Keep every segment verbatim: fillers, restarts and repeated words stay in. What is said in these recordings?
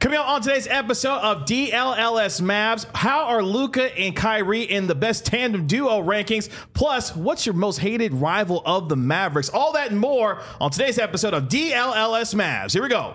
Coming up on today's episode of D L L S Mavs, how are Luka and Kyrie in the best tandem duo rankings? Plus, what's your most hated rival of the Mavericks? All that and more on today's episode of D L L S Mavs. Here we go.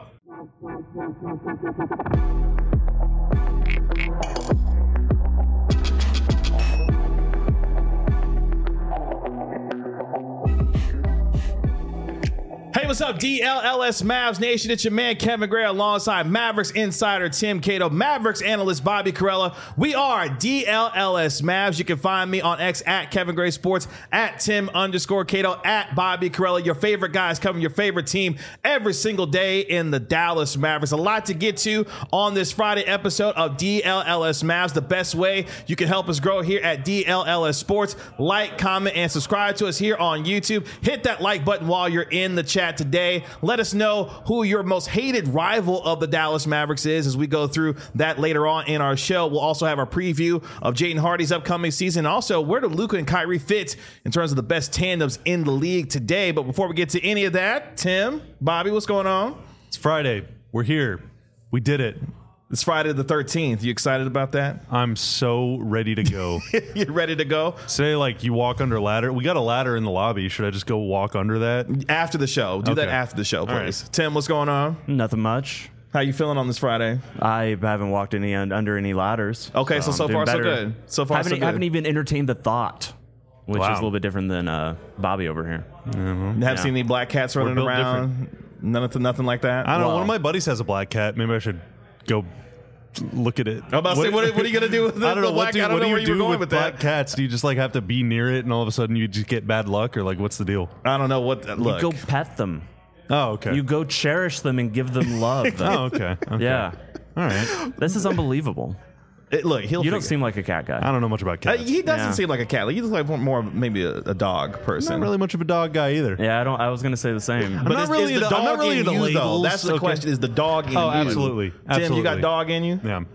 Hey, what's up, D L L S Mavs Nation? It's your man, Kevin Gray, alongside Mavericks insider Tim Cato, Mavericks analyst Bobby Carella. We are D L L S Mavs. You can find me on X at Kevin Gray Sports, at Tim underscore Cato, at Bobby Carella. Your favorite guys covering your favorite team every single day in the Dallas Mavericks. A lot to get to on this Friday episode of D L L S Mavs. The best way you can help us grow here at D L L S Sports, like, comment, and subscribe to us here on YouTube. Hit that like button while you're in the chat today. Let us know who your most hated rival of the Dallas Mavericks is as we go through that later on in our show. We'll also have our preview of Jaden Hardy's upcoming season. Also, where do Luka and Kyrie fit in terms of the best tandems in the league today? But before we get to any of that, Tim, Bobby, what's going on? It's Friday. We're here. We did it. It's Friday the thirteenth. You excited about that? I'm so ready to go. You're ready to go? Say, like, you walk under a ladder. We got a ladder in the lobby. Should I just go walk under that? After the show. Do Okay. that after the show, please. Right. Tim, what's going on? Nothing much. How you feeling on this Friday? I haven't walked any under any ladders. Okay, so so I'm far doing so better. good. So far haven't, so good. haven't even entertained the thought, which Wow. is a little bit different than uh, Bobby over here. Have Yeah. seen any black cats running built around? Nothing, nothing like that. I don't know. Wow. One of my buddies has a black cat. Maybe I should go look at it. I'm about to say, what, what are you gonna do with the, I don't know. the What black do, cat? I what don't do know you where you were do going with with black that. cats? Do you just like have to be near it and all of a sudden you just get bad luck, or like what's the deal? I don't know what. Look, You go pet them. Oh, okay. You go cherish them and give them love. oh, okay. okay. Yeah. All right. This is unbelievable. it, look, he'll. You don't figure- seem like a cat guy. I don't know much about Uh, cats. he doesn't Yeah. seem like a cat. Like, he looks like more, more of maybe a, a dog person. Not really much of a dog guy either. Yeah, I don't. I was gonna say the same. But not is, really is the into- I'm dog not really in into you though? labels. That's the Okay. question. Is the dog in Oh, you? absolutely. Tim, Absolutely. you got dog in you? Yeah.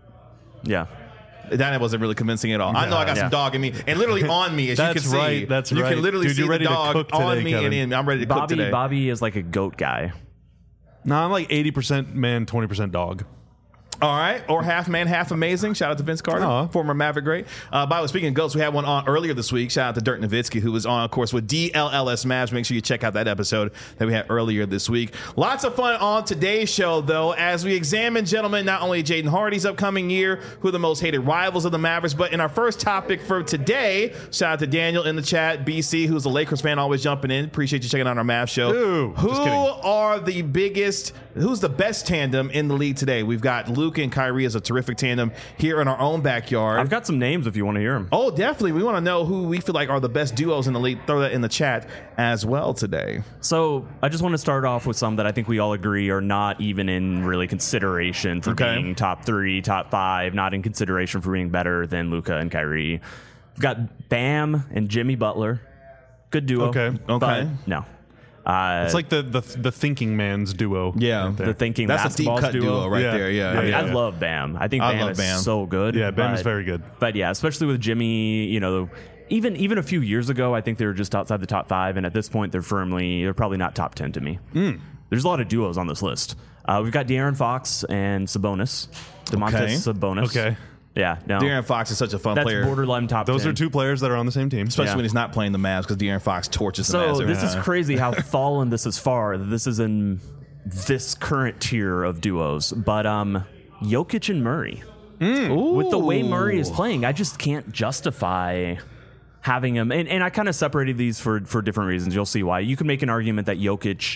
Yeah. That wasn't really convincing at all. I know I got Yeah. some dog in me, and literally on me, as you That's can see. right, that's you right. can literally Dude, see you're ready the to dog cook on today, me, Kevin. and I'm ready to cook Bobby. today. Bobby is like a goat guy. No, I'm like eighty percent man, twenty percent dog. All right, or half man, half amazing. Shout out to Vince Carter, Aw. former Maverick great. Uh, by the way, speaking of goats, we had one on earlier this week. Shout out to Dirk Nowitzki, who was on, of course, with D L L S Mavs. Make sure you check out that episode that we had earlier this week. Lots of fun on today's show, though, as we examine, gentlemen, not only Jaden Hardy's upcoming year, who are the most hated rivals of the Mavericks, but in our first topic for today, shout out to Daniel in the chat, B C, who's a Lakers fan, always jumping in. Appreciate you checking out our Mavs show. Ooh, who just kidding. are the biggest, who's the best tandem in the league today? We've got Luka and Kyrie as a terrific tandem here in our own backyard. I've got some names if you want to hear them. Oh, definitely. We want to know who we feel like are the best duos in the league. Throw that in the chat as well today. So I just want to start off with some that I think we all agree are not even in really consideration for Okay. being top three, top five, not in consideration for being better than Luka and Kyrie. We've got Bam and Jimmy Butler. Good duo. Okay. Okay. But no. Uh, It's like the the, the thinking man's duo. Yeah. right there. the thinking That's a deep basketballs cut duo, duo. right Yeah. there. Yeah. Yeah, I, mean, yeah. I love Bam. I think I Bam love is Bam. so good. Yeah, Bam is but- very good. But yeah, especially with Jimmy, you know, even even a few years ago, I think they were just outside the top five, and at this point, they're firmly they're probably not top ten to me. Mm. There's a lot of duos on this list. Uh, we've got De'Aaron Fox and Sabonis, Domantas Okay. Sabonis. Okay. Yeah, no, De'Aaron Fox is such a fun that's player, borderline top. Those ten. are two players that are on the same team. especially Yeah. when he's not playing the Mavs because De'Aaron Fox torches the Mavs. So every this is time. crazy how fallen this is far. This is in this current tier of duos, but um, Jokic and Murray. With the way Murray is playing, I just can't justify having him. And, and I kind of separated these for, for different reasons. You'll see why. You can make an argument that Jokic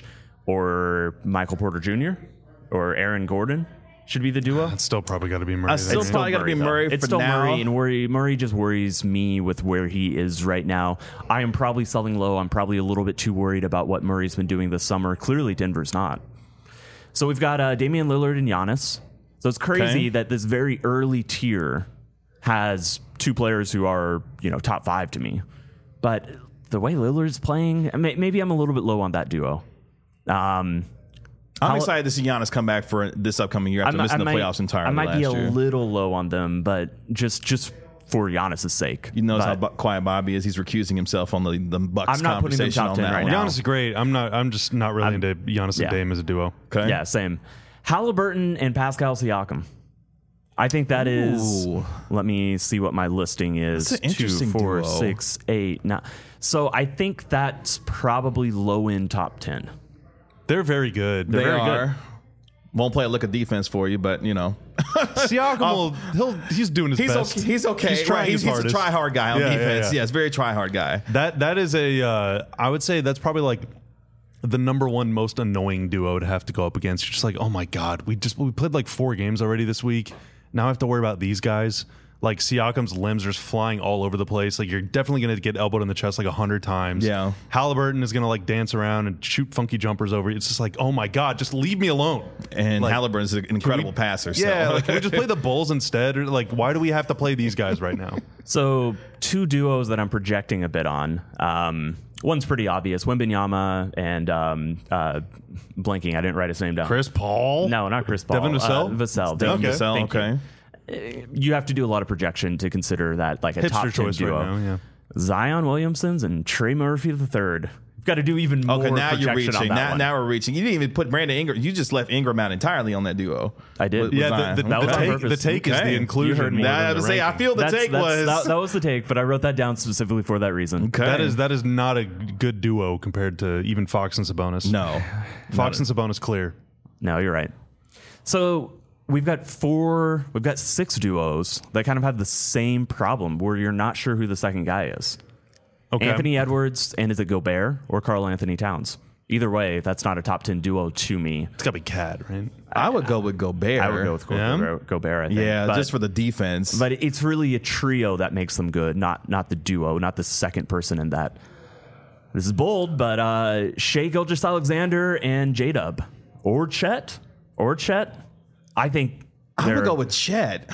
or Michael Porter Junior or Aaron Gordon should be the duo. It's still probably got to be Murray. I still there. probably got to be though. Murray It's for still now. Murray, and worry, Murray just worries me with where he is right now. I am probably selling low. I'm probably a little bit too worried about what Murray's been doing this summer. Clearly, Denver's not. So we've got uh, Damian Lillard and Giannis. So it's crazy Okay. that this very early tier has two players who are, you know, top five to me. But the way Lillard's playing, may- maybe I'm a little bit low on that duo. Um, I'm How- excited to see Giannis come back for this upcoming year after I mi- missing I the might- playoffs entirely I might last be a year. little low on them, but just just for Giannis' sake. You notice But- how bu- quiet Bobby is. He's recusing himself on the, the Bucks I'm not putting them conversation top on ten that right one. now. Giannis is great. I'm not. I'm just not really into Giannis yeah. and Dame as a duo. Okay. Yeah, same. Halliburton and Pascal Siakam. I think that is. Ooh. Let me see what my listing is. That's an interesting Two, four, duo. six, eight, nine. So I think that's probably low end top ten. They're very good. They very are. good. Won't play a look of defense for you, but you know. Siakam will, he'll, he's doing his He's best. okay. He's okay. He's trying Right, he's, his he's a hardest. try hard guy on Yeah, yeah, defense. yeah. Yes, very try hard guy. That that is a. Uh, I would say that's probably like the number one most annoying duo to have to go up against. You're just like, oh my god, we just we played like four games already this week. Now I have to worry about these guys. Like Siakam's limbs are just flying all over the place. Like you're definitely going to get elbowed in the chest like a hundred times. Yeah. Halliburton is going to like dance around and shoot funky jumpers over. It's just like, oh my god, just leave me alone. And Like, Halliburton's an incredible we- passer. So. Yeah, like can we just play the Bulls instead? Or like, why do we have to play these guys right now? So two duos that I'm projecting a bit on. Um, one's pretty obvious: Wembanyama and um, uh, blanking. I didn't write his name down. Chris Paul? No, not Chris Paul. Devin Vassell? Uh, Vassell. Devin Thank you. Vassell, Thank you. okay. You have to do a lot of projection to consider that like a Hipster top ten choice duo. right now, yeah. Zion Williamson's and Trey Murphy the third. You've got to do even more Okay, now you're projection on reaching. that Now, one. now we're reaching. You didn't even put Brandon Ingram. You just left Ingram out entirely on that duo. I did. With- with Yeah, Zion. the, the, That the was on take, purpose. the take is Okay. the inclusion. You heard me. more Now, than I the was say, I ranking. feel the That's- take that's- was. that, that was the take, but I wrote that down specifically for that reason. Okay. That is that is not a good duo compared to even Fox and Sabonis. No. Fox and Sabonis clear. No, you're right. So we've got four, we've got six duos that kind of have the same problem where you're not sure who the second guy is. Okay. Anthony Edwards, and is it Gobert or Karl Anthony Towns? Either way, that's not a top ten duo to me. It's got to be Cad, right? I would go with Gobert. I would go with Yeah? Gobert, Gobert I think. Yeah, But- just for the defense. But it's really a trio that makes them good, not not the duo, not the second person in that. This is bold, but uh, Shai Gilgeous-Alexander and J-Dub. Or Chet. Or Chet. I think I would they're- go with Chet.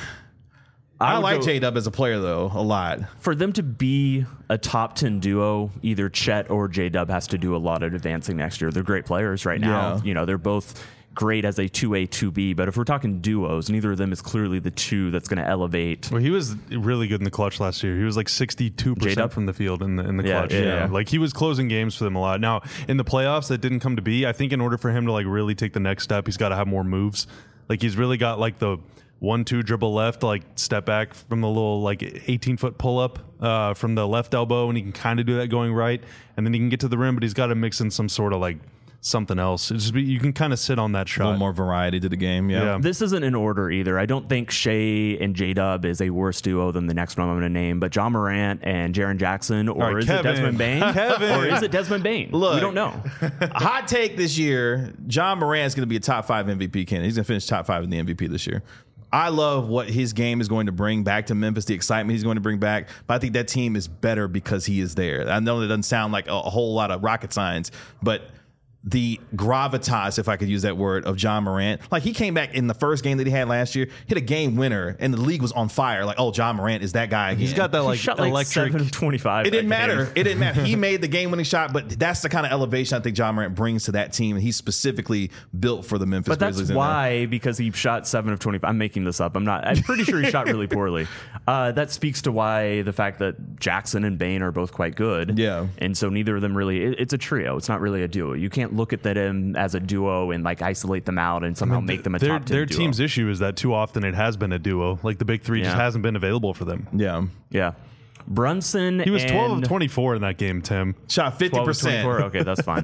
I, would like go- J-Dub as a player, though, a lot. For them to be a top ten duo, either Chet or J-Dub has to do a lot of advancing next year. They're great players right now. Yeah. You know, they're both great as a two A, two B, but if we're talking duos, neither of them is clearly the two that's going to elevate. Well, he was really good in the clutch last year. He was like sixty-two J-Dub? percent from the field in the in the Yeah, clutch. yeah, yeah. Like he was closing games for them a lot. Now, in the playoffs, that didn't come to be. I think in order for him to like really take the next step, he's got to have more moves. Like he's really got like the one two dribble left, like step back from the little like eighteen foot pull up uh, from the left elbow, and he can kind of do that going right, and then he can get to the rim, but he's got to mix in some sort of like something else. It's just be, you can kind of sit on that A shot. little more variety to the game. Yeah. Yeah. This isn't in order either. I don't think Shea and J-Dub is a worse duo than the next one I'm going to name, but John Morant and Jaren Jackson, or All right, is Kevin. it Desmond Bain? Kevin. Or is it Desmond Bain? Look. We don't know. Hot take this year: John Morant's going to be a top five M V P candidate. He's going to finish top five in the M V P this year. I love what his game is going to bring back to Memphis, the excitement he's going to bring back. But I think that team is better because he is there. I know that doesn't sound like a, a whole lot of rocket science, but the gravitas, if I could use that word, of John Morant. Like, he came back in the first game that he had last year, hit a game winner, and the league was on fire. Like, oh, John Morant is that guy again. He's got that He like shot like electric. seven of twenty-five. It didn't that game. matter. It didn't matter. He made the game-winning shot, but that's the kind of elevation I think John Morant brings to that team, and he's specifically built for the Memphis But that's Grizzlies. in there. why, because he shot seven of twenty-five. I'm making this up. I'm not. I'm pretty sure he shot really poorly. Uh, that speaks to why the fact that Jackson and Bain are both quite good. Yeah. And so neither of them really. It, it's a trio. It's not really a duo. You can't look at them as a duo and like isolate them out and somehow make them a their, top ten their duo. team's issue is that too often it has been a duo. Like the big three just Yeah. hasn't been available for them. Yeah. Yeah. Brunson. He was twelve and of twenty-four in that game, Tim. Shot fifty twelve of percent. twenty-four. Okay, that's fine.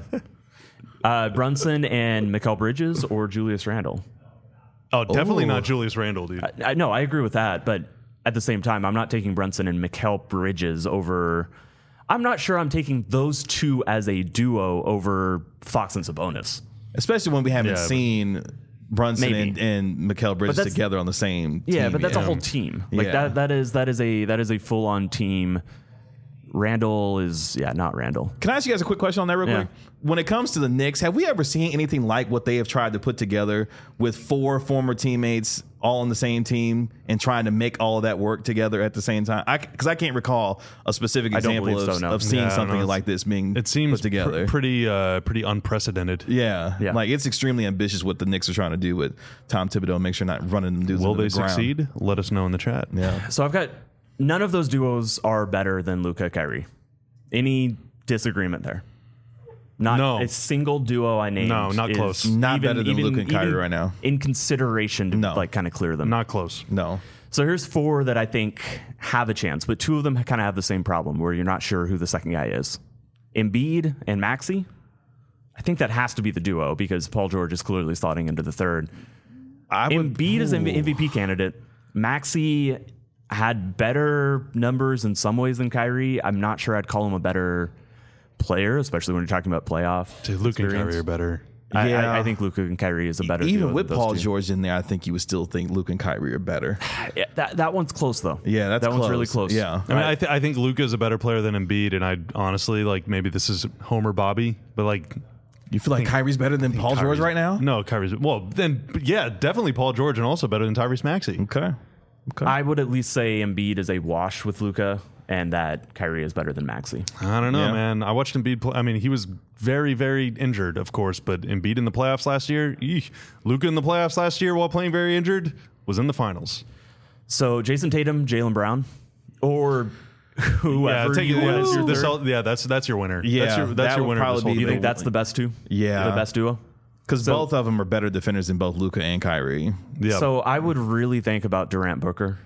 Uh, Brunson and Mikal Bridges or Julius Randle. Oh, definitely Ooh. not Julius Randle, dude. I know, I agree with that, but at the same time, I'm not taking Brunson and Mikal Bridges over. I'm not sure I'm taking those two as a duo over Fox and Sabonis. Especially when we haven't Yeah, but- seen Brunson Maybe. and, and Mikal Bridges that's- together on the same team. Yeah, but that's yet. a whole team. Like Yeah. that. That is that is a that is a full on team. Randall is yeah, not Randall. Can I ask you guys a quick question on that real Yeah. quick? When it comes to the Knicks, have we ever seen anything like what they have tried to put together with four former teammates all on the same team and trying to make all of that work together at the same time? Because I, I can't recall a specific I don't example believe of, so, no. of seeing Yeah, I don't something know. like this being It seems put together. pr- pretty uh, pretty unprecedented. yeah. Yeah. Like it's extremely ambitious what the Knicks are trying to do with Tom Thibodeau and make sure not running them dudes Will into they the ground. succeed? Let us know in the chat. Yeah. So I've got none of those duos are better than Luka Kyrie. Any disagreement there? Not No. a single duo I named. No, not is close. Not better than Luka and Kyrie even right now. In consideration to No. like kind of clear them. Not close. No. So here's four that I think have a chance, but two of them kind of have the same problem where you're not sure who the second guy is. Embiid and Maxey. I think that has to be the duo because Paul George is clearly slotting into the third. I would, Embiid is an M V P candidate. Maxey had better numbers in some ways than Kyrie. I'm not sure I'd call him a better player, especially when you're talking about playoff. Dude, Luke and experience. Kyrie are better. I, Yeah. I, I think Luka and Kyrie is a better Even duo with than those Paul two. George in there, I think you would still think Luke and Kyrie are better. Yeah, that that one's close though. Yeah, that's that close. one's really close. Yeah. I mean, I, th- I think Luka is a better player than Embiid, and I honestly like maybe this is Homer Bobby, but like You feel like Kyrie's better than Paul George Kyrie's- right now? No, Kyrie's well then yeah, definitely Paul George, and also better than Tyrese Maxey. Okay. Okay. I would at least say Embiid is a wash with Luka, and that Kyrie is better than Maxey. I don't know, Yeah. man. I watched Embiid play. I mean, he was very, very injured, of course, but Embiid in the playoffs last year, eek. Luka in the playoffs last year while playing very injured was in the finals. So Jason Tatum, Jaylen Brown, or whoever yeah, take you it. want Yeah, as your this third. all- yeah, that's that's your winner. Yeah, that's your, that's that your would winner. probably This whole be You the- think that's the best two? Yeah. The best duo? Because So- both of them are better defenders than both Luka and Kyrie. yeah. So I would really think about Durant Booker.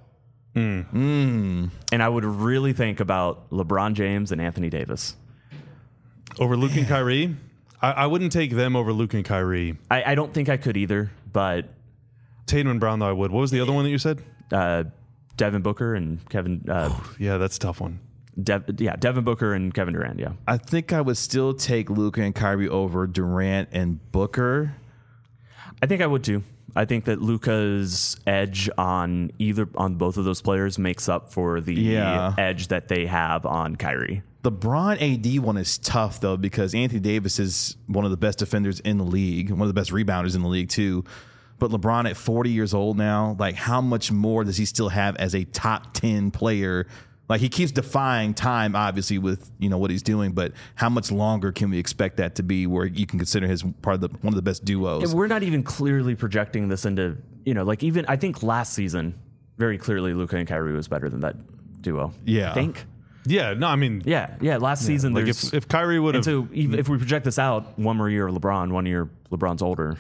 And I would really think about LeBron James and Anthony Davis. over Luke and Kyrie, I, I wouldn't take them over Luke and Kyrie. I, I don't think I could either, but Tatum and Brown, though, I would. What was the other one that you said? uh, Devin Booker and Kevin, uh, Yeah, that's a tough one. Dev, yeah, Devin Booker and Kevin Durant. Yeah, I think I would still take Luka and Kyrie over Durant and Booker. I think I would too. I think that Luka's edge on either on both of those players makes up for the Yeah. edge that they have on Kyrie. The Bron A D one is tough though because Anthony Davis is one of the best defenders in the league, one of the best rebounders in the league too. But LeBron at forty years old now, like how much more does he still have as a top ten player? Like he keeps defying time, obviously, with you know what he's doing. But how much longer can we expect that to be, where you can consider his part of the one of the best duos? And we're not even clearly projecting this into, you know, like even I think last season, very clearly Luka and Kyrie was better than that duo. Yeah. I think. Yeah, no, I mean, Yeah, yeah. Last season, like there's if, if Kyrie would and have. so even if we project this out, one more year of LeBron, one year LeBron's older.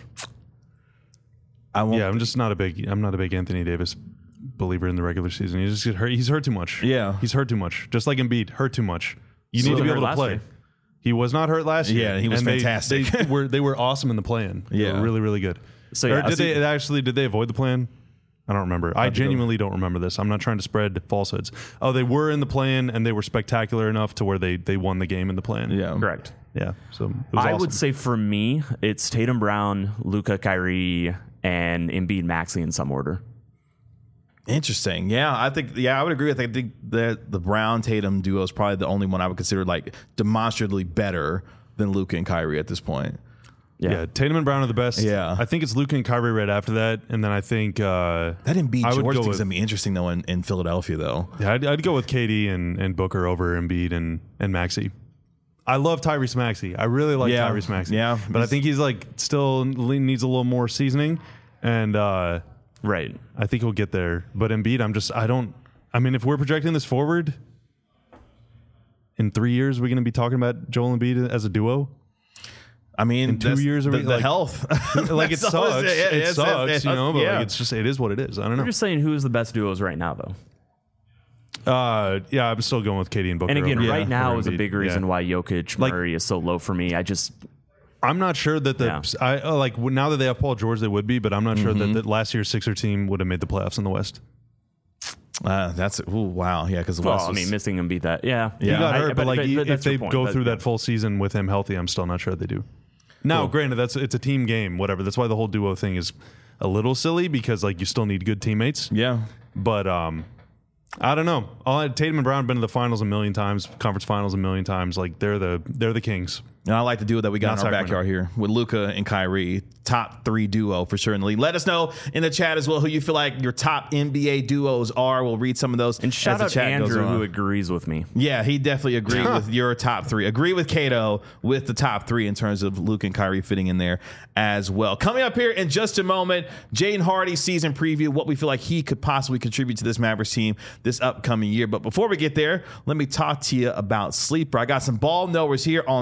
I won't. Yeah, I'm just not a big. I'm not a big Anthony Davis believer in the regular season. He just get hurt. He's hurt too much. Yeah. he's hurt too much. Just like Embiid, hurt too much. You So need to be hurt able to last play. year. He was not hurt last year. Yeah, he was and they- fantastic. They, were they were awesome in the play-in. They Yeah. were really really good. So, Or yeah, did so- they actually? Did they avoid the plan? I don't remember. I to go- genuinely don't remember this. I'm not trying to spread falsehoods. Oh, they were in the plan and they were spectacular enough to where they they won the game in the plan. Yeah. Correct. yeah. So it was I awesome. would say for me, it's Tatum Brown, Luka Kyrie, and Embiid Maxey in some order. Interesting. Yeah, I think. Yeah, I would agree with. I think that the Brown Tatum duo is probably the only one I would consider like demonstrably better than Luka and Kyrie at this point. Yeah. Tatum and Brown are the best. Yeah. I think it's Luka and Kyrie right after that, and then I think uh, That Embiid I would George go thing's with- gonna be interesting though in, in Philadelphia though. yeah, I'd, I'd go with K D and, and Booker over Embiid and and Maxey. I love Tyrese Maxey. I really like Yeah. Tyrese Maxey. Yeah. but I think he's like still needs a little more seasoning, and uh, Right. I think he'll get there. But Embiid, I'm just I don't. I mean, if we're projecting this forward, in three years, we're going to be talking about Joel Embiid as a duo. I mean, In two that's years, are the, we, the like- health. Like it That's all sucks. it- It, it's- sucks, it's- you know. But yeah. like, it's just it is what it is. I don't I'm know. just saying who's the best duos right now, though. Uh, yeah, I'm still going with K D and Booker. And again, over- right now over is a Embiid. big reason Yeah. why Jokic Like- Murray is so low for me. I just I'm not sure that the Yeah. I uh, like w- now that they have Paul George, they would be, but I'm not sure Mm-hmm. that, that last year's Sixer team would have made the playoffs in the West. Uh, that's ooh, wow. Yeah, because well, I mean, missing him beat that. Yeah, He Yeah. got I- hurt, but, like but e- if that's they your point. go That- through that full season with him healthy, I'm still not sure they do. Now, Cool. granted, that's it's a team game, whatever. That's why the whole duo thing is a little silly because like you still need good teammates. yeah. But um, I don't know. All, Tatum and Brown have been to the finals a million times, conference finals a million times. Like they're the they're the kings. And I like the duo that we got Not in our Sacramento. backyard here with Luka and Kyrie. Top three duo for sure in the league. Let us know in the chat as well who you feel like your top N B A duos are. We'll read some of those. And shout as the out chat goes Andrew on. who agrees with me. Yeah, he definitely agreed with your top three. Agree with Cato with the top three in terms of Luke and Kyrie fitting in there as well. Coming up here in just a moment, Jaden Hardy season preview, what we feel like he could possibly contribute to this Mavericks team this upcoming year. But before we get there, let me talk to you about Sleeper. I got some ball knowers here on set with me.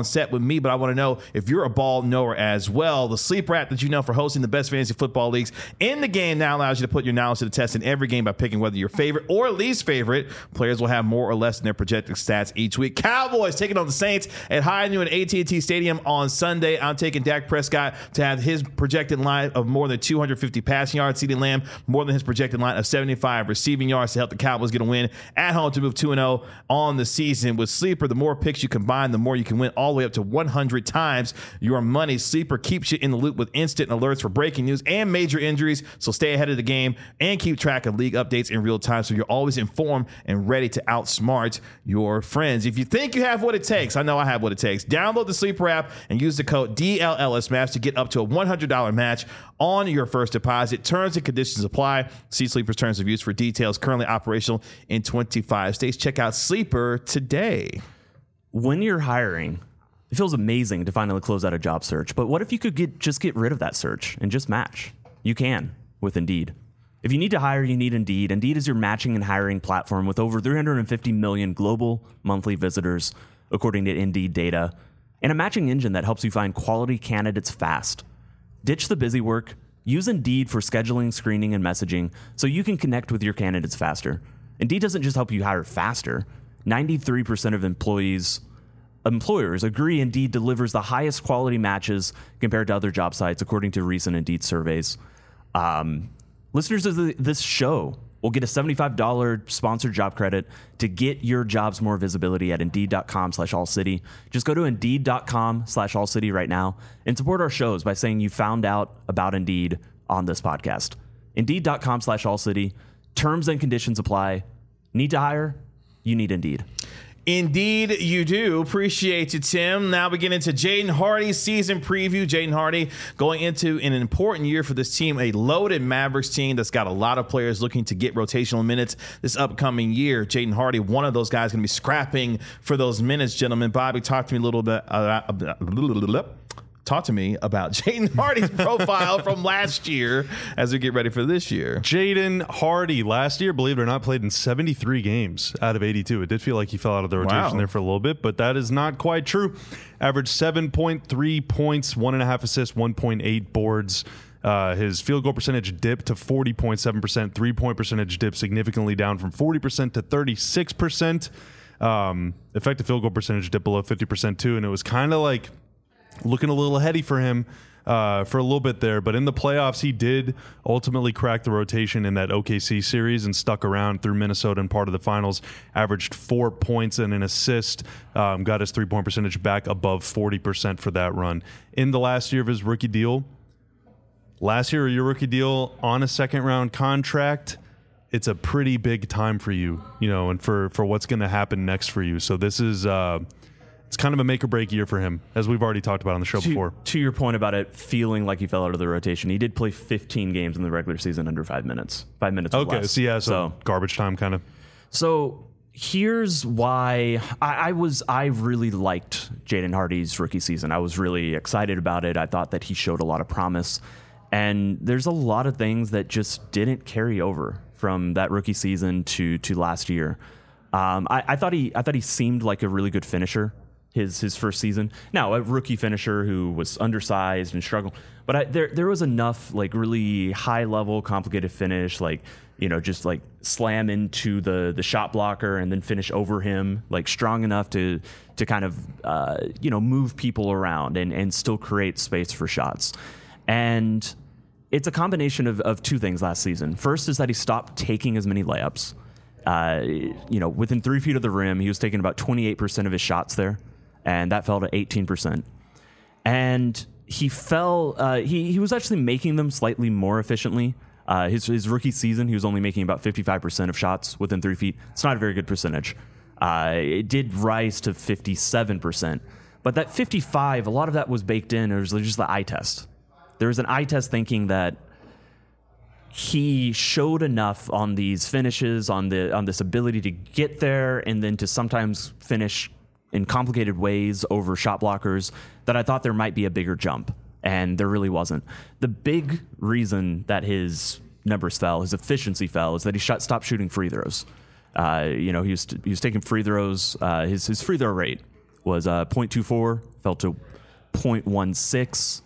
me, but I want to know if you're a ball knower as well. The Sleeper app that you know for hosting the best fantasy football leagues in the game now allows you to put your knowledge to the test in every game by picking whether your favorite or least favorite players will have more or less in their projected stats each week. Cowboys taking on the Saints at High Noon at A T and T Stadium on Sunday. I'm taking Dak Prescott to have his projected line of more than two hundred fifty passing yards. CeeDee Lamb more than his projected line of seventy-five receiving yards to help the Cowboys get a win at home to move two and oh on the season. With Sleeper, the more picks you combine, the more you can win, all the way up to one hundred times your money. Sleeper keeps you in the loop with instant alerts for breaking news and major injuries, so stay ahead of the game and keep track of league updates in real time so you're always informed and ready to outsmart your friends. If you think you have what it takes, I know I have what it takes. Download the Sleeper app and use the code D L L S Match to get up to a one hundred dollars match on your first deposit. Terms and conditions apply. See Sleeper's terms of use for details. Currently operational in twenty-five states. Check out Sleeper today. When you're hiring, it feels amazing to finally close out a job search. But what if you could get just get rid of that search and just match? You can with Indeed. If you need to hire, you need Indeed. Indeed is your matching and hiring platform with over three hundred fifty million global monthly visitors, according to Indeed data, and a matching engine that helps you find quality candidates fast. Ditch the busy work. Use Indeed for scheduling, screening, and messaging so you can connect with your candidates faster. Indeed doesn't just help you hire faster. ninety-three percent of employees, employers agree Indeed delivers the highest quality matches compared to other job sites, according to recent Indeed surveys. Um, listeners of the, this show will get a seventy-five dollars sponsored job credit to get your jobs more visibility at Indeed.com slash All City. Just go to Indeed.com slash All City right now and support our shows by saying you found out about Indeed on this podcast. Indeed.com slash All City. Terms and conditions apply. Need to hire? You need Indeed. Indeed, you do. Appreciate you, Tim. Now we get into Jaden Hardy's season preview. Jaden Hardy going into an important year for this team, a loaded Mavericks team that's got a lot of players looking to get rotational minutes this upcoming year. Jaden Hardy, one of those guys, going to be scrapping for those minutes, gentlemen. Bobby, talk to me a little bit. Uh, uh, Talk to me about Jaden Hardy's profile from last year as we get ready for this year. Jaden Hardy last year, believe it or not, played in seventy-three games out of eighty-two. It did feel like he fell out of the rotation wow. there for a little bit, but that is not quite true. Averaged seven point three points, one and a half assists, one point eight boards. Uh, his field goal percentage dipped to forty point seven percent. Three-point percentage dipped significantly down from forty percent to thirty-six percent. Um, effective field goal percentage dipped below fifty percent too, and it was kind of like looking a little heady for him uh, for a little bit there. But in the playoffs, he did ultimately crack the rotation in that O K C series and stuck around through Minnesota and part of the finals. Averaged four points and an assist. Um, got his three-point percentage back above forty percent for that run. In the last year of his rookie deal, last year of your rookie deal on a second-round contract, it's a pretty big time for you, you know, and for, for what's going to happen next for you. So this is... Uh, It's kind of a make or break year for him, as we've already talked about on the show to, before. To your point about it feeling like he fell out of the rotation, he did play fifteen games in the regular season under five minutes. Five minutes or okay, less. so yeah, so, so garbage time kind of. So here's why I, I was I really liked Jaden Hardy's rookie season. I was really excited about it. I thought that he showed a lot of promise. And there's a lot of things that just didn't carry over from that rookie season to to last year. Um, I, I thought he I thought he seemed like a really good finisher. His his first season. Now, a rookie finisher who was undersized and struggled, but I, there there was enough like really high level, complicated finish, like you know, just like slam into the the shot blocker and then finish over him, like strong enough to to kind of uh, you know move people around and and still create space for shots. And it's a combination of of two things last season. First is that he stopped taking as many layups. Uh, you know, within three feet of the rim, he was taking about twenty-eight percent of his shots there. And that fell to eighteen percent. And he fell, uh, he, he was actually making them slightly more efficiently. Uh, his, his rookie season, he was only making about fifty-five percent of shots within three feet. It's not a very good percentage. Uh, it did rise to fifty-seven percent. But that fifty-five, a lot of that was baked in. It was just the eye test. There was an eye test thinking that he showed enough on these finishes, on the on this ability to get there, and then to sometimes finish in complicated ways over shot blockers, that I thought there might be a bigger jump, and there really wasn't. The big reason that his numbers fell, his efficiency fell, is that he shot, stopped shooting free throws. Uh, you know, he was he was taking free throws. Uh, his his free throw rate was uh, point two four, fell to point one six.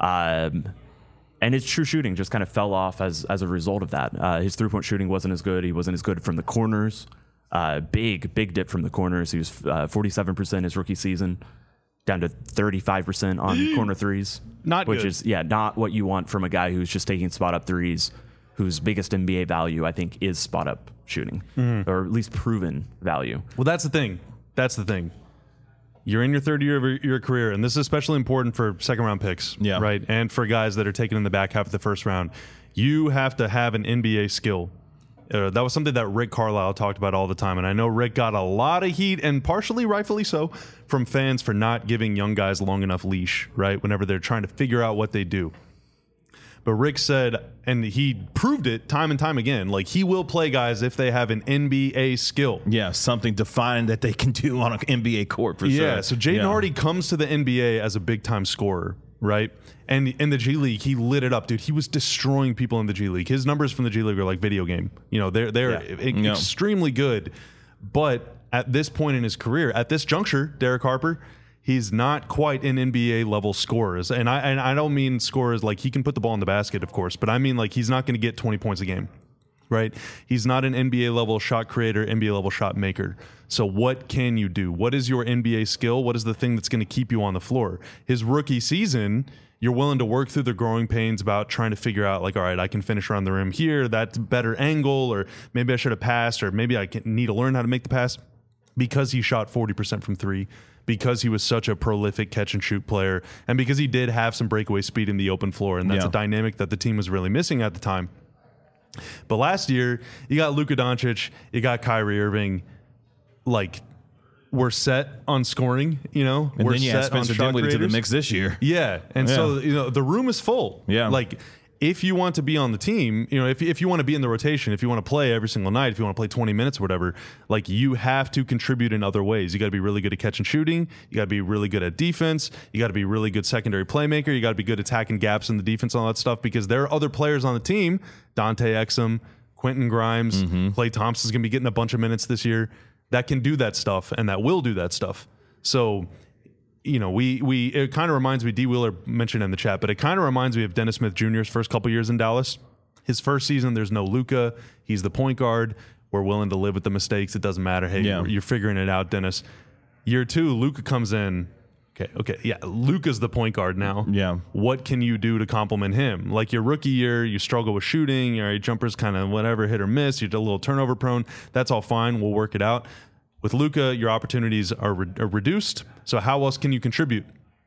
Um, and his true shooting just kind of fell off as as a result of that. Uh, his three-point shooting wasn't as good. He wasn't as good from the corners. Uh, big, big dip from the corners. He was uh, forty-seven percent his rookie season, down to thirty-five percent on corner threes. Not which good. is, yeah, not what you want from a guy who's just taking spot-up threes, whose biggest N B A value, I think, is spot-up shooting, mm-hmm. or at least proven value. Well, that's the thing. That's the thing. You're in your third year of your career, and this is especially important for second-round picks, yeah. right? And for guys that are taken in the back half of the first round. You have to have an N B A skill. Uh, that was something that Rick Carlisle talked about all the time, and I know Rick got a lot of heat, and partially rightfully so, from fans for not giving young guys long enough leash, right, whenever they're trying to figure out what they do. But Rick said, and he proved it time and time again, like he will play guys if they have an N B A skill. Yeah, something defined that they can do on an N B A court for yeah, sure. Yeah, so Jaden yeah. Hardy comes to the N B A as a big-time scorer, right? And in the G League, he lit it up, dude. He was destroying people in the G League. His numbers from the G League are like video game. You know, they're they're Yeah. e- Yeah. extremely good. But at this point in his career, at this juncture, Derek Harper, he's not quite an N B A level scorers. And I and I don't mean scorers like he can put the ball in the basket, of course, but I mean like he's not going to get twenty points a game. Right? He's not an N B A level shot creator, N B A level shot maker. So what can you do? What is your N B A skill? What is the thing that's going to keep you on the floor? His rookie season, you're willing to work through the growing pains about trying to figure out like, all right, I can finish around the rim here. That's a better angle, or maybe I should have passed, or maybe I can, need to learn how to make the pass, because he shot forty percent from three, because he was such a prolific catch and shoot player, and because he did have some breakaway speed in the open floor. And that's Yeah. a dynamic that the team was really missing at the time. But last year, you got Luka Doncic, you got Kyrie Irving, like, we're set on scoring, you know? And we're then you set add Spencer on shot Dinwiddie to the creators. mix this year. Yeah, and Yeah. so, you know, the room is full. Yeah. Like, if you want to be on the team, you know, if, if you want to be in the rotation, if you want to play every single night, if you want to play twenty minutes or whatever, like, you have to contribute in other ways. You got to be really good at catch and shooting. You got to be really good at defense. You got to be really good secondary playmaker. You got to be good attacking gaps in the defense and all that stuff, because there are other players on the team, Dante Exum, Quentin Grimes, Mm-hmm. Klay Thompson's going to be getting a bunch of minutes this year, that can do that stuff and that will do that stuff. So, you know, we we it kind of reminds me, D. Wheeler mentioned in the chat, but it kind of reminds me of Dennis Smith Junior's first couple years in Dallas. His first season, there's no Luka. He's the point guard. We're willing to live with the mistakes. It doesn't matter. Hey, Yeah. you're figuring it out, Dennis. Year two, Luka comes in. Okay, okay, yeah, Luka's the point guard now. Yeah. What can you do to complement him? Like your rookie year, you struggle with shooting, your jumpers kind of whatever, hit or miss, you're a little turnover prone. That's all fine. We'll work it out. With Luka, your opportunities are, re- are reduced. So how else can you contribute?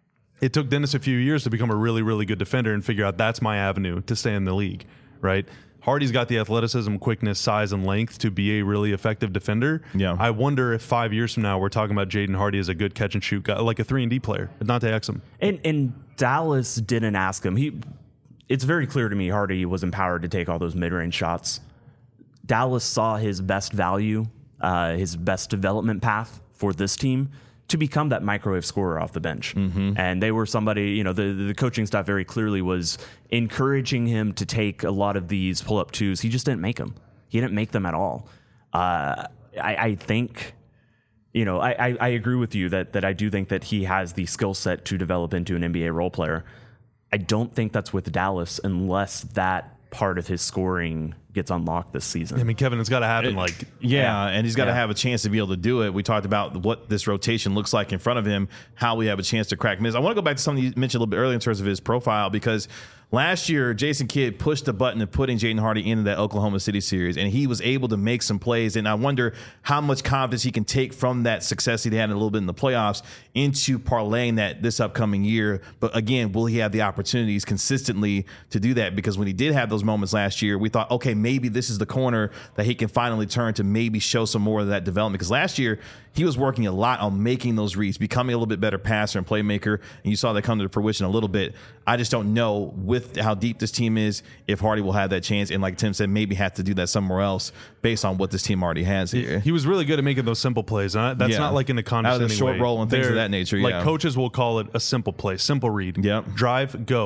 It took Dennis a few years to become a really, really good defender and figure out that's my avenue to stay in the league, right? Hardy's got the athleticism, quickness, size, and length to be a really effective defender. Yeah. I wonder if five years from now we're talking about Jaden Hardy as a good catch and shoot guy, like a three and D player, Dante Exum. And and Dallas didn't ask him. He, it's very clear to me Hardy was empowered to take all those mid-range shots. Dallas saw his best value, uh, his best development path for this team to become that microwave scorer off the bench. Mm-hmm. And they were somebody, you know, the, the coaching staff very clearly was encouraging him to take a lot of these pull-up twos. He just didn't make them. He didn't make them at all. Uh, I, I think... You know, I, I, I agree with you that that I do think that he has the skill set to develop into an N B A role player. I don't think that's with Dallas unless that part of his scoring gets unlocked this season. I mean, Kevin, it's got to happen. Like, Yeah, and he's got to Yeah. have a chance to be able to do it. We talked about what this rotation looks like in front of him, how we have a chance to crack minutes. I want to go back to something you mentioned a little bit earlier in terms of his profile, because last year, Jason Kidd pushed the button of putting Jaden Hardy into that Oklahoma City series, and he was able to make some plays. And I wonder how much confidence he can take from that success he had a little bit in the playoffs into parlaying that this upcoming year. But again, will he have the opportunities consistently to do that? Because when he did have those moments last year, we thought, okay, maybe this is the corner that he can finally turn to maybe show some more of that development. Because last year, he was working a lot on making those reads, becoming a little bit better passer and playmaker, and you saw that come to fruition a little bit. I just don't know with how deep this team is if Hardy will have that chance, and like Tim said, maybe have to do that somewhere else based on what this team already has here. he was really good at making those simple plays. And that's Yeah. not like in a Out of the condescending short way. roll and things of They're- that nature, Like yeah. coaches will call it a simple play, simple read. Yep. Drive, go.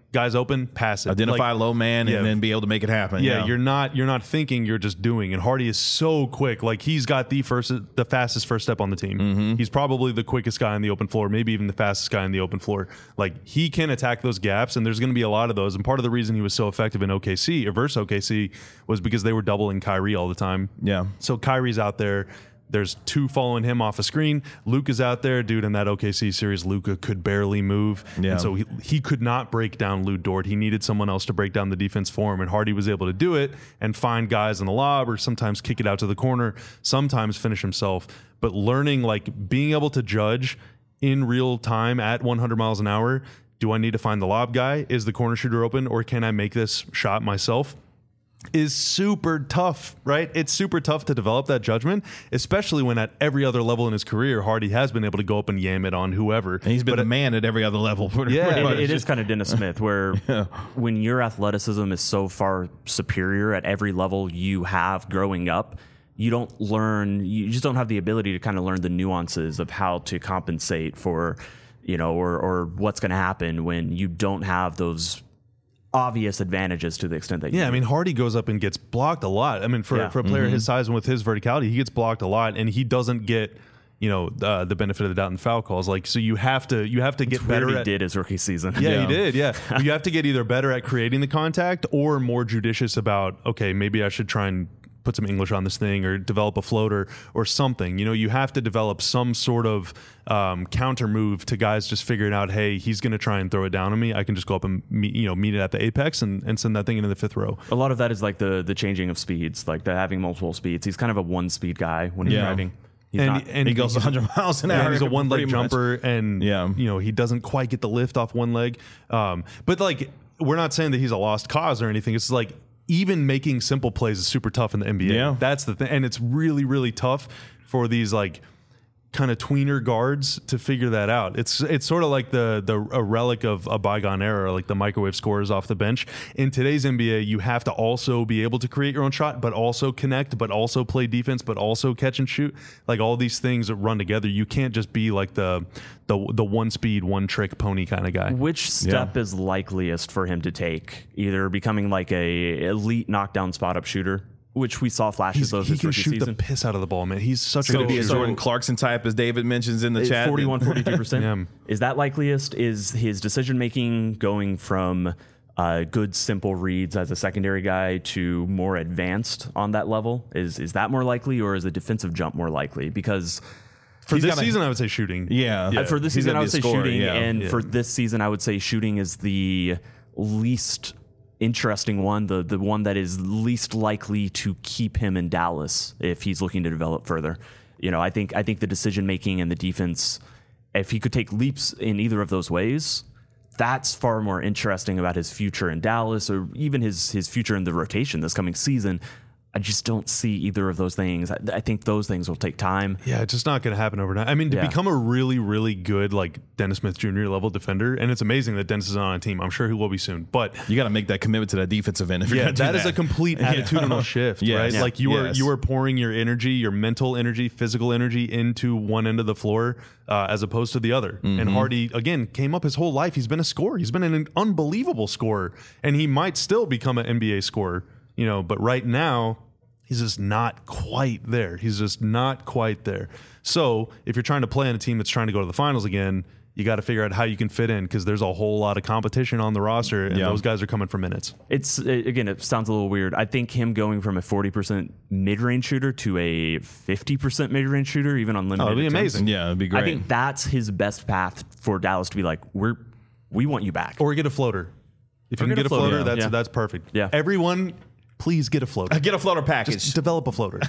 guys open, pass it. Identify Like, low man yeah. and then be able to make it happen. Yeah, Yeah, you're not you're not thinking, you're just doing. And Hardy is so quick. Like he's got the first the fastest first step on the team. Mm-hmm. He's probably the quickest guy on the open floor, maybe even the fastest guy on the open floor. Like he can attack those gaps, and there's going to be a lot of those. And part of the reason he was so effective in O K C or versus O K C was because they were doubling Kyrie all the time. Yeah. So Kyrie's out there. There's two following him off a screen. Luka's out there, dude. In that O K C series, Luka could barely move, Yeah. and so he, he could not break down Lou Dort. He needed someone else to break down the defense for him, and Hardy was able to do it and find guys in the lob, or sometimes kick it out to the corner, sometimes finish himself. But learning, like being able to judge in real time at one hundred miles an hour. Do I need to find the lob guy? Is the corner shooter open, or can I make this shot myself? Is super tough, right? It's super tough to develop that judgment, especially when at every other level in his career, Hardy has been able to go up and yam it on whoever. And he's been But a man at every other level. Pretty, Yeah, pretty It, much. it is kind of Dennis Smith, where Yeah. when your athleticism is so far superior at every level you have growing up, you don't learn, you just don't have the ability to kind of learn the nuances of how to compensate for, you know, or, or what's going to happen when you don't have those obvious advantages to the extent that you Yeah, I do. mean, Hardy goes up and gets blocked a lot. I mean, for, Yeah. for a player his size and with his verticality, he gets blocked a lot, and he doesn't get, you know, uh, the benefit of the doubt in foul calls. Like, so you have to you have to get It's better weird he at did his rookie season. Yeah, Yeah. he did. Yeah. But you have to get either better at creating the contact or more judicious about, okay, maybe I should try and put some English on this thing or develop a floater or something. You know, you have to develop some sort of um, counter move to guys just figuring out, hey, he's going to try and throw it down on me. I can just go up and meet, you know, meet it at the apex and, and send that thing into the fifth row. A lot of that is like the the changing of speeds, like the having multiple speeds. He's kind of a one speed guy when he's Yeah. driving. He's And, not, and he goes one hundred miles an Yeah, hour. he's a one leg pretty much. jumper, and Yeah. you know he doesn't quite get the lift off one leg. Um, but like, we're not saying that he's a lost cause or anything. It's like even making simple plays is super tough in the N B A. Yeah. That's the thing, and it's really really tough for these like kind of tweener guards to figure that out. It's it's sort of like the the a relic of a bygone era, like the microwave scorers off the bench. In today's N B A, you have to also be able to create your own shot, but also connect, but also play defense, but also catch and shoot. Like all these things that run together. You can't just be like the the the one speed, one trick pony kind of guy. which step is likeliest for him to take? Either becoming like a elite knockdown spot up shooter, which we saw flashes He's, of he his can rookie shoot season. the piss out of the ball, man. He's such a Could good it be a shooter. Jordan Clarkson type, as David mentions in the chat? forty-one, forty-two percent. Yeah. Is that likeliest? Is his decision making going from uh, good simple reads as a secondary guy to more advanced on that level? Is is that more likely, or is a defensive jump more likely? Because For He's this gotta- season, I would say shooting. Yeah. Uh, for this He's season, gonna I be would a say scorer, shooting, yeah. and Yeah. for this season, I would say shooting is the least interesting one, the the one that is least likely to keep him in Dallas if he's looking to develop further. You know, I think I think the decision making and the defense, if he could take leaps in either of those ways, that's far more interesting about his future in Dallas, or even his his future in the rotation this coming season. I just don't see either of those things. I, I think those things will take time. Yeah, it's just not going to happen overnight. I mean, to Yeah. become a really, really good like Dennis Smith Junior level defender, and it's amazing that Dennis is on a team. I'm sure he will be soon. But You got to make that commitment to that defensive end. If you're yeah, gonna do that is a complete attitudinal shift, Yes. right? Yeah. Like you are Yes. you are pouring your energy, your mental energy, physical energy into one end of the floor uh, as opposed to the other. Mm-hmm. And Hardy again came up his whole life. He's been a scorer. He's been an unbelievable scorer, and he might still become an N B A scorer. You know, but right now, he's just not quite there. He's just not quite there. So if you're trying to play on a team that's trying to go to the finals again, you got to figure out how you can fit in, because there's a whole lot of competition on the roster, and Yeah. those guys are coming for minutes. It's uh, again, it sounds a little weird. I think him going from a forty percent mid-range shooter to a fifty percent mid-range shooter, even on limited, Oh, it'd be attempts, amazing. Yeah, it'd be great. I think that's his best path for Dallas to be like, we're we want you back. Or get a floater. If you can get a floater, yeah. that's Yeah. that's perfect. Yeah. Everyone, please get a floater. Get a floater package. Just develop a floater.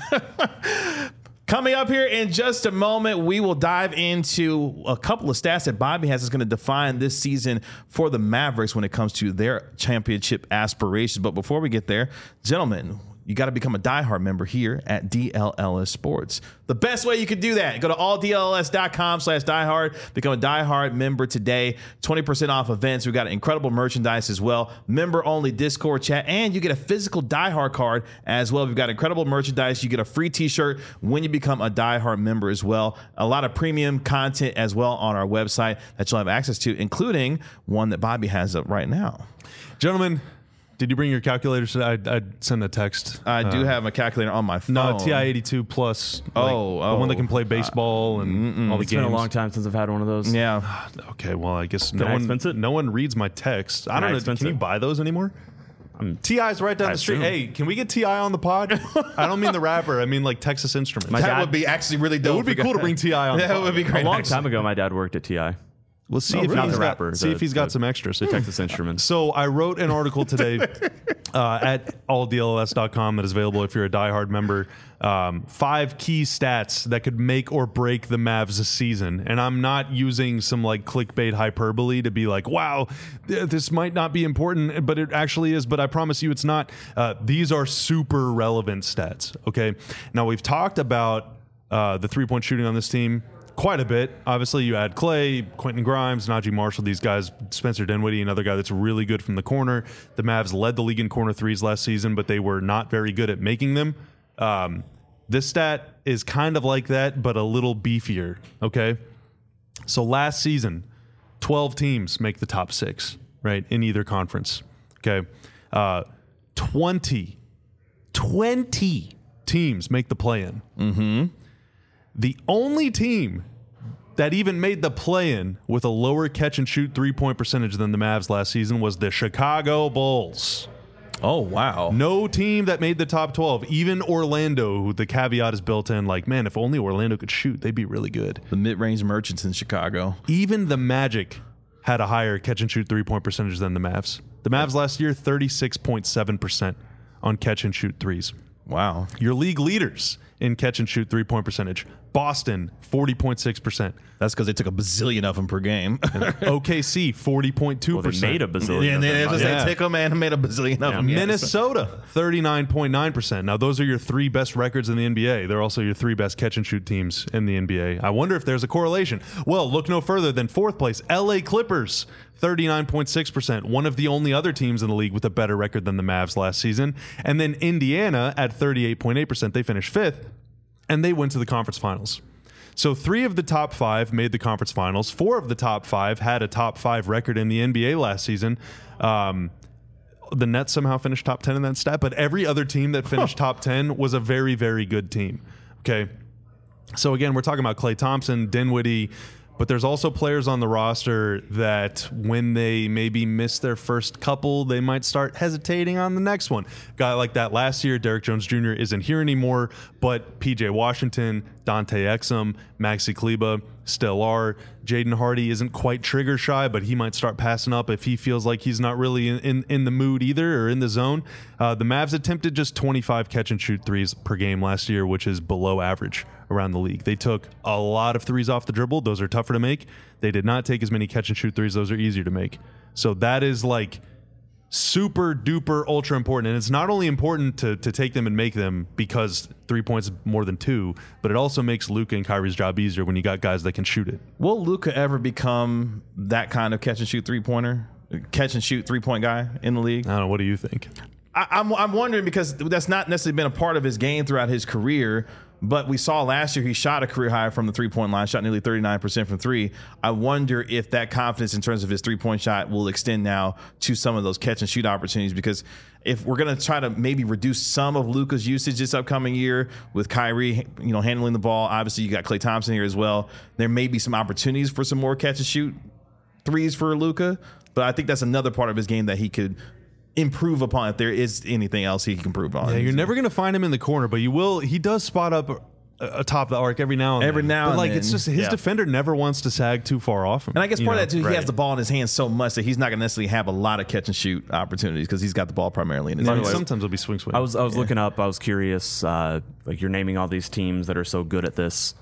Coming up here in just a moment, we will dive into a couple of stats that Bobby has is going to define this season for the Mavericks when it comes to their championship aspirations. But before we get there, gentlemen, you got to become a diehard member here at D L L S Sports. The best way you can do that, go to all D L L S dot com slash diehard, become a diehard member today, twenty percent off events. We've got incredible merchandise as well, member-only Discord chat, and you get a physical diehard card as well. We've got incredible merchandise. You get a free t-shirt when you become a diehard member as well. A lot of premium content as well on our website that you'll have access to, including one that Bobby has up right now. Gentlemen, did you bring your calculators? I'd, I'd send a text. I do Uh, have my calculator on my phone. No, T I eighty-two plus. Like, Oh, the oh. one that can play baseball and all the It's games. been a long time since I've had one of those. Yeah. Okay, well, I guess no I one, expense it? no one reads my text. I Can don't I know. expense Can you it? buy those anymore? T I's right down I the street. assume. Hey, can we get T I on the pod? I don't mean the rapper. I mean like Texas Instruments. My That dad- would be actually really dope. It would be cool to bring T I on the That pod. would be great. A long actually. time ago, my dad worked at T I, We'll see Oh, if really? he's Not the got, rapper, see the- if he's got the- some extras. the Texas Instruments. So I wrote an article today uh, at all D L L S dot com that is available if you're a diehard member. Um, five key stats that could make or break the Mavs this season. And I'm not using some like clickbait hyperbole to be like, wow, th- this might not be important, but it actually is. But I promise you it's not. Uh, these are super relevant stats. Okay. Now we've talked about uh, the three point shooting on this team quite a bit. Obviously, you add Clay, Quentin Grimes, Najee Marshall, these guys, Spencer Dinwiddie, another guy that's really good from the corner. The Mavs led the league in corner threes last season, but they were not very good at making them. Um, this stat is kind of like that, but a little beefier, okay? So last season, twelve teams make the top six, right, in either conference, okay? Uh, twenty, twenty teams make the play-in. Mm-hmm. The only team that even made the play-in with a lower catch-and-shoot three-point percentage than the Mavs last season was the Chicago Bulls. Oh, wow. No team that made the top twelve, even Orlando, who the caveat is built in, like, man, if only Orlando could shoot, they'd be really good. The mid-range merchants in Chicago. Even the Magic had a higher catch-and-shoot three-point percentage than the Mavs. The Mavs last year, thirty-six point seven percent on catch-and-shoot threes. Wow. Your league leaders in catch-and-shoot three-point percentage, Boston, forty point six percent. That's because they took a bazillion of them per game. O K C, forty point two Well, they percent. made a bazillion. yeah, and of they them. just Yeah. say tick them and made a bazillion of them. Yes. Minnesota, thirty-nine point nine percent. Now, those are your three best records in the N B A. They're also your three best catch-and-shoot teams in the N B A. I wonder if there's a correlation. Well, look no further than fourth place, L A Clippers, thirty-nine point six percent. One of the only other teams in the league with a better record than the Mavs last season. And then Indiana at thirty-eight point eight percent. They finished fifth, and they went to the conference finals. So three of the top five made the conference finals. Four of the top five had a top five record in the N B A last season. Um, the Nets somehow finished top ten in that stat, but every other team that finished top ten was a very, very good team. Okay. So again, we're talking about Klay Thompson, Dinwiddie, but there's also players on the roster that when they maybe miss their first couple, they might start hesitating on the next one. Guy like that last year, Derrick Jones Junior isn't here anymore, but P J Washington, Dante Exum, Maxi Kleba still are. Jaden Hardy isn't quite trigger shy, but he might start passing up if he feels like he's not really in, in, in the mood either or in the zone. Uh, the Mavs attempted just twenty-five catch and shoot threes per game last year, which is below average around the league. They took a lot of threes off the dribble. Those are tougher to make. They did not take as many catch and shoot threes. Those are easier to make. So that is like super duper ultra important. And it's not only important to, to take them and make them because three points is more than two, but it also makes Luka and Kyrie's job easier when you got guys that can shoot it. Will Luka ever become that kind of catch and shoot three pointer, catch and shoot three point guy in the league? I don't know. What do you think? I, I'm I'm wondering because that's not necessarily been a part of his game throughout his career. But we saw last year he shot a career high from the three-point line, shot nearly thirty-nine percent from three. I wonder if that confidence in terms of his three-point shot will extend now to some of those catch-and-shoot opportunities, because if we're going to try to maybe reduce some of Luka's usage this upcoming year with Kyrie, you know, handling the ball, obviously you got Klay Thompson here as well, there may be some opportunities for some more catch-and-shoot threes for Luka, but I think that's another part of his game that he could improve upon if there is anything else he can improve on. Yeah, you're never going to find him in the corner, but you will. He does spot up atop the arc every now and Every then. now but and like then. it's just his Yeah. defender never wants to sag too far off him. And I guess you part know? of that too, Right. he has the ball in his hands so much that he's not going to necessarily have a lot of catch and shoot opportunities because he's got the ball primarily in his I mean, hands. sometimes it'll be swing swing. I was I was looking up. I was curious. Uh, like you're naming all these teams that are so good at this.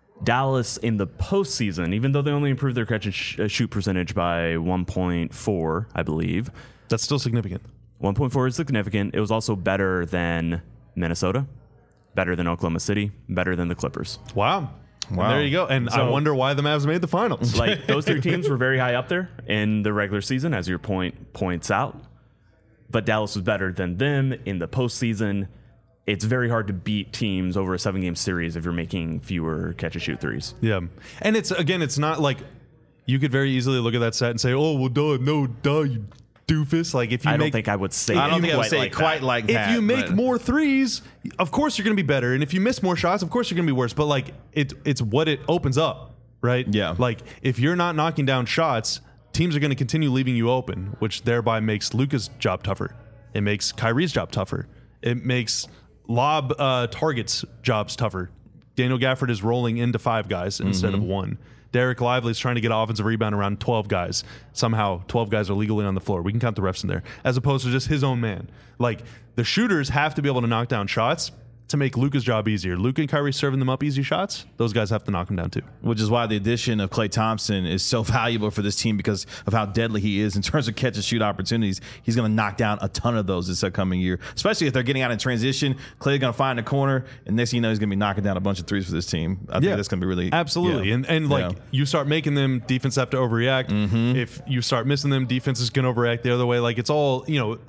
Dallas in the postseason, even though they only improved their catch and sh- shoot percentage by one point four, I believe. That's still significant. one point four is significant. It was also better than Minnesota, better than Oklahoma City, better than the Clippers. Wow. Wow. And there you go. And So- I wonder why the Mavs made the finals. Like those three teams were very high up there in the regular season, as your point points out. But Dallas was better than them in the postseason. It's very hard to beat teams over a seven-game series if you're making fewer catch-and-shoot threes. Yeah. And it's, again, it's not like you could very easily look at that set and say, oh, well, duh, no, duh, you doofus. Like, if you I don't make, think I would say. I don't it think I would quite say like quite that. like if that. you make but- more threes, of course you're going to be better. And if you miss more shots, of course you're going to be worse. But, like, it, it's what it opens up, right? Yeah. Like, if you're not knocking down shots, teams are going to continue leaving you open, which thereby makes Luka's job tougher. It makes Kyrie's job tougher. It makes lob uh, targets jobs tougher. Daniel Gafford is rolling into five guys instead Mm-hmm. of one. Derek Lively's trying to get offensive rebound around twelve guys. Somehow twelve guys are legally on the floor. We can count the refs in there, as opposed to just his own man. Like, the shooters have to be able to knock down shots to make Luka's job easier. Luka and Kyrie serving them up easy shots, those guys have to knock them down too. Which is why the addition of Klay Thompson is so valuable for this team because of how deadly he is in terms of catch and shoot opportunities. He's going to knock down a ton of those this upcoming year, especially if they're getting out in transition. Klay's going to find a corner, and next thing you know, he's going to be knocking down a bunch of threes for this team. I think that's going to be really absolutely. yeah. And and like Yeah. you start making them, defense have to overreact. Mm-hmm. If you start missing them, defense is going to overreact the other way. Like, it's all, you know.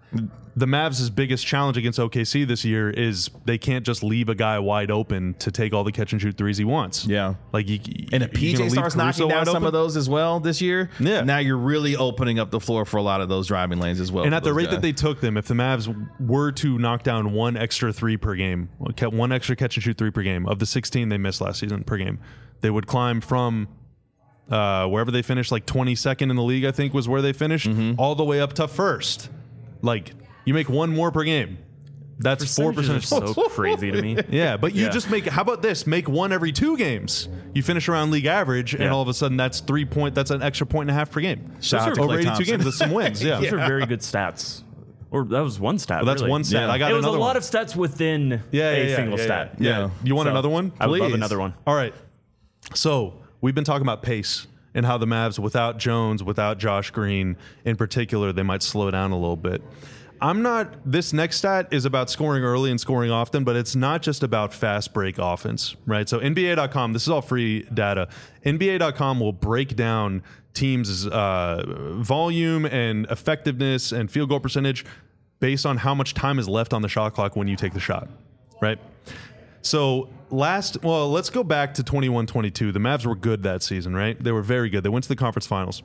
The Mavs' biggest challenge against O K C this year is they can't just leave a guy wide open to take all the catch and shoot threes he wants. Yeah. Like, you, And if you P gonna J leave starts Caruso knocking down wide some open? of those as well this year, Yeah. now you're really opening up the floor for a lot of those driving lanes as well. And for at the those rate guys. that they took them, if the Mavs were to knock down one extra three per game, one extra catch and shoot three per game of the sixteen they missed last season per game, they would climb from uh, wherever they finished, like twenty-second in the league, I think was where they finished, Mm-hmm. all the way up to first. Like, you make one more per game. That's four Percentages percentage are points. so crazy to me. Yeah, but you Yeah. just make, how about this? Make one every two games. You finish around league average, and Yeah. all of a sudden that's three point, that's an extra point and a half per game. Shout Those out are to over Klay eighty-two Thompson. games. That's some wins. Yeah. Those are very good stats. Or that was one stat. Well, that's really. one stat. Yeah. I got It was a another lot one. of stats within yeah, yeah, a yeah, single yeah, stat. Yeah. Yeah. You want So, another one? I would love Please. another one. All right. So we've been talking about pace and how the Mavs, without Jones, without Josh Green in particular, they might slow down a little bit. I'm not, this next stat is about scoring early and scoring often, but it's not just about fast break offense, right? So N B A dot com, this is all free data. N B A dot com will break down teams' uh, volume and effectiveness and field goal percentage based on how much time is left on the shot clock when you take the shot, right? So last, well, let's go back to twenty-one twenty-two. The Mavs were good that season, right? They were very good. They went to the conference finals.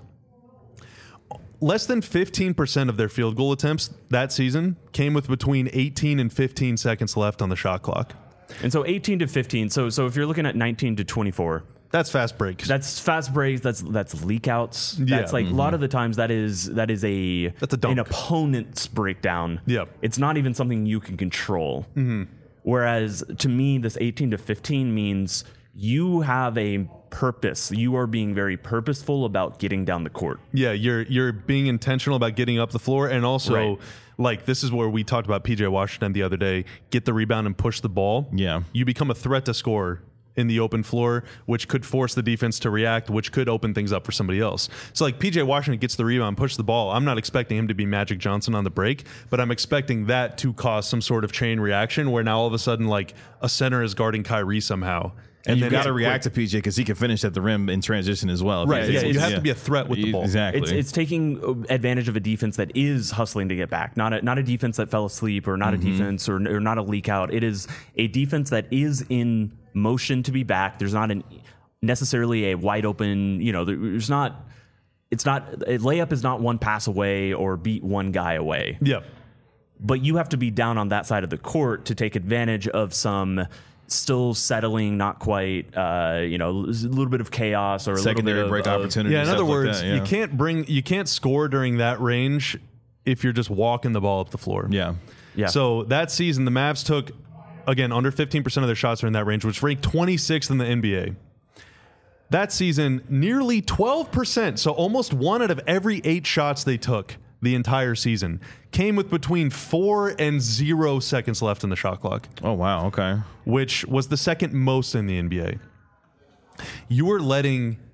Less than fifteen percent of their field goal attempts that season came with between eighteen and fifteen seconds left on the shot clock. And so eighteen to fifteen. So so if you're looking at nineteen to twenty-four, That's fast breaks. that's fast breaks. That's that's leak outs. Yeah. That's like a lot of the times that is that is a That's a dunk. an opponent's breakdown. Yeah. It's not even something you can control. Mm-hmm. Whereas to me, this eighteen to fifteen means you have a purpose. You are being very purposeful about getting down the court. Yeah, you're you're being intentional about getting up the floor, and also Right. like this is where we talked about P J Washington the other day. Get the rebound and push the ball. Yeah. You become a threat to score in the open floor, which could force the defense to react, which could open things up for somebody else. So like P J Washington gets the rebound, pushes the ball. I'm not expecting him to be Magic Johnson on the break, but I'm expecting that to cause some sort of chain reaction where now all of a sudden like a center is guarding Kyrie somehow. And, you then got it's to a react quick- to P J because he can finish at the rim in transition as well. if Right, he's yeah, able you to. have to be a threat with the ball. Exactly. It's it's taking advantage of a defense that is hustling to get back, not a, not a defense that fell asleep, or not Mm-hmm. a defense or, or not a leak out. It is a defense that is in motion to be back. There's not an necessarily a wide open. You know, there's not. It's not a layup is not one pass away or beat one guy away. Yeah. But you have to be down on that side of the court to take advantage of some still settling, not quite, uh, you know, a little bit of chaos or a Secondary little bit break of, of opportunities. Yeah, in other stuff like words, that, yeah. you can't bring you can't score during that range if you're just walking the ball up the floor. Yeah. Yeah. So that season, the Mavs took again under fifteen percent of their shots are in that range, which ranked twenty-sixth in the N B A. That season, nearly twelve percent, so almost one out of every eight shots they took the entire season came with between four and zero seconds left on the shot clock, Oh, wow. Okay. which was the second most in the N B A. You were letting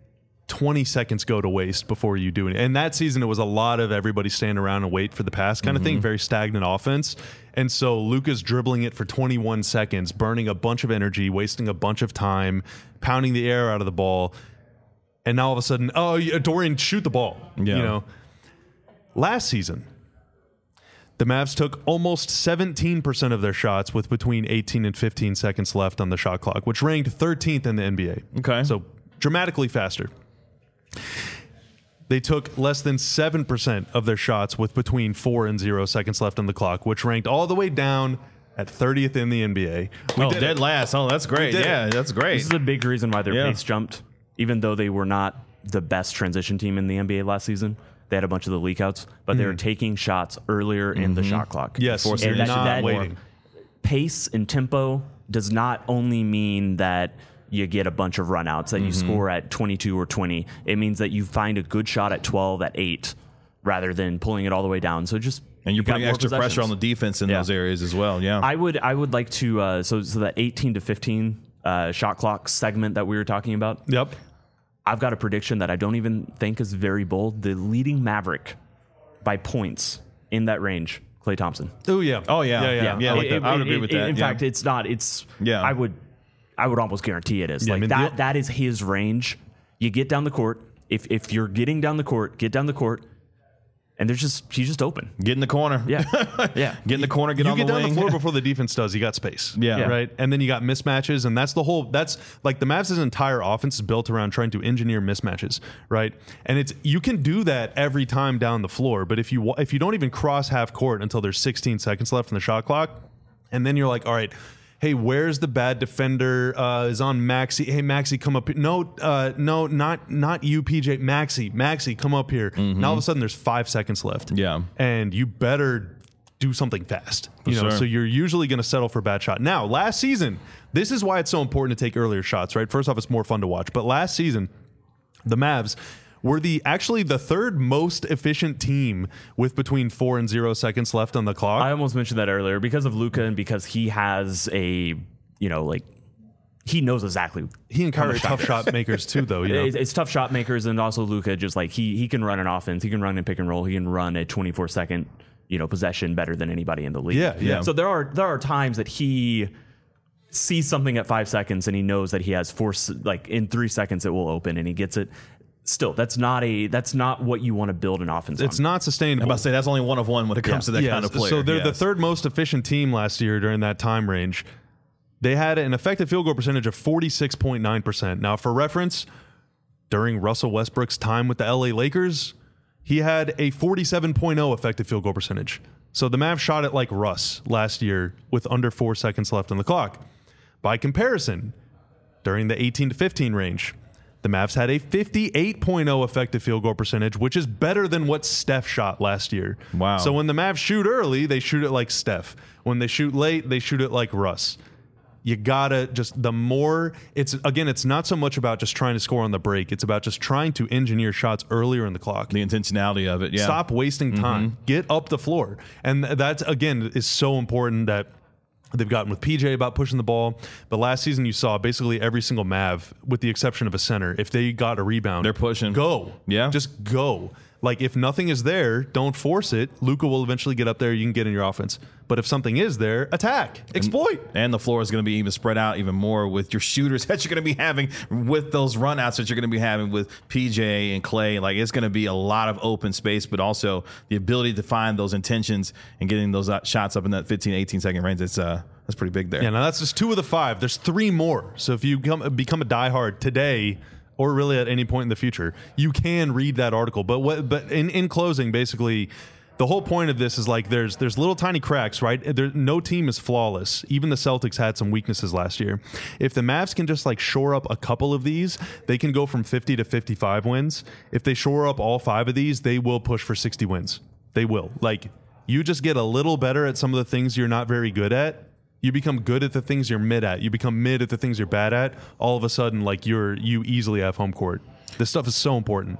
twenty seconds go to waste before you do it. And that season, it was a lot of everybody standing around and wait for the pass kind of Mm-hmm. thing, very stagnant offense. And so Luka's dribbling it for twenty-one seconds, burning a bunch of energy, wasting a bunch of time, pounding the air out of the ball. And now all of a sudden, oh, yeah, Dorian, shoot the ball. Yeah. You know, last season, the Mavs took almost seventeen percent of their shots with between eighteen and fifteen seconds left on the shot clock, which ranked thirteenth in the N B A. Okay. So dramatically faster. They took less than seven percent of their shots with between four and zero seconds left on the clock, which ranked all the way down at thirtieth in the N B A. We oh, did dead it. last. Oh, that's great. did Yeah, it. that's great. This is a big reason why their Yeah. pace jumped, even though they were not the best transition team in the N B A last season. They had a bunch of the leak outs, but they were taking shots earlier in the shot clock. Yes, Forcing and it that, not that waiting. pace and tempo does not only mean that you get a bunch of runouts, that you score at twenty-two or twenty. It means that you find a good shot at twelve, at eight, rather than pulling it all the way down. So just and you're you got putting more extra pressure on the possessions. defense in Yeah. those areas as well. Yeah. I would I would like to uh, so so that eighteen to fifteen uh, shot clock segment that we were talking about. Yep. I've got a prediction that I don't even think is very bold. The leading Maverick by points in that range, Klay Thompson. Oh, yeah. Oh, yeah. Yeah, yeah. Yeah, I like It- that. I would it- agree it- with it- that, In yeah. fact, it's not. It's Yeah. I would I would almost guarantee it is. Yeah, I like mean, that. the- that is his range. You get down the court. If if you're getting down the court, get down the court, and there's just he's just open. Get in the corner. Yeah, yeah. Get in the corner. Get you on get the down wing. the floor before the defense does. You got space. Yeah. Yeah. Right. And then you got mismatches, and that's the whole. That's like the Mavs' entire offense is built around trying to engineer mismatches. Right. And it's you can do that every time down the floor, but if you wa- if you don't even cross half court until there's sixteen seconds left in the shot clock, and then you're like, all right. Hey, where's the bad defender? Uh, is on Maxi. Hey, Maxi, come up here. No, uh, no, not not you, P J. Maxi, Maxi, come up here. Now all of a sudden, there's five seconds left. Yeah. and you better do something fast. You know, sure. so you're usually going to settle for a bad shot. Now, last season, this is why it's so important to take earlier shots. Right. First off, it's more fun to watch. But last season, the Mavs were the actually the third most efficient team with between four and zero seconds left on the clock. I almost mentioned that earlier because of Luka and because he has a you know like he knows exactly. he and Kyrie are tough shot makers too, though. You know? It's, it's tough shot makers, and also Luka just like he he can run an offense, he can run a pick and roll, he can run a twenty-four second you know possession better than anybody in the league. Yeah, yeah. So there are there are times that he sees something at five seconds and he knows that he has four s- like in three seconds it will open and he gets it. Still, that's not a that's not what you want to build an offense It's on. not sustainable. I'm about to say that's only one of one when it comes to that Yes, kind of player. So they're the Yes. third most efficient team last year during that time range. They had an effective field goal percentage of forty-six point nine percent. Now, for reference, during Russell Westbrook's time with the L A Lakers, he had a forty-seven point oh effective field goal percentage. So the Mavs shot it like Russ last year with under four seconds left on the clock. By comparison, during the eighteen to fifteen range, the Mavs had a fifty-eight point oh effective field goal percentage, which is better than what Steph shot last year. Wow. So when the Mavs shoot early, they shoot it like Steph. When they shoot late, they shoot it like Russ. You gotta just, the more, it's, again, it's not so much about just trying to score on the break. It's about just trying to engineer shots earlier in the clock. the intentionality of it. Yeah. Stop wasting time. Get up the floor. And th- that's, again, is so important that they've gotten with P J about pushing the ball. But last season, you saw basically every single Mav, with the exception of a center, if they got a rebound, They're pushing. Go. Yeah. Just go. Like, if nothing is there, don't force it. Luka will eventually get up there. You can get in your offense. But if something is there, attack. Exploit. And the floor is going to be even spread out even more with your shooters that you're going to be having with those runouts that you're going to be having with P J and Klay. Like, it's going to be a lot of open space, but also the ability to find those intentions and getting those uh, shots up in that fifteen, eighteen second range. It's uh, that's pretty big there. Yeah, now that's just two of the five. There's three more. So if you become, become a diehard today, or really at any point in the future, you can read that article. But what? But in, in closing, basically, the whole point of this is like there's there's little tiny cracks, right? There, no team is flawless. Even the Celtics had some weaknesses last year. If the Mavs can just like shore up a couple of these, they can go from fifty to fifty-five wins. If they shore up all five of these, they will push for sixty wins. They will. Like, you just get a little better at some of the things you're not very good at. You become good at the things you're mid at. You become mid at the things you're bad at. All of a sudden, like you're you easily have home court. This stuff is so important.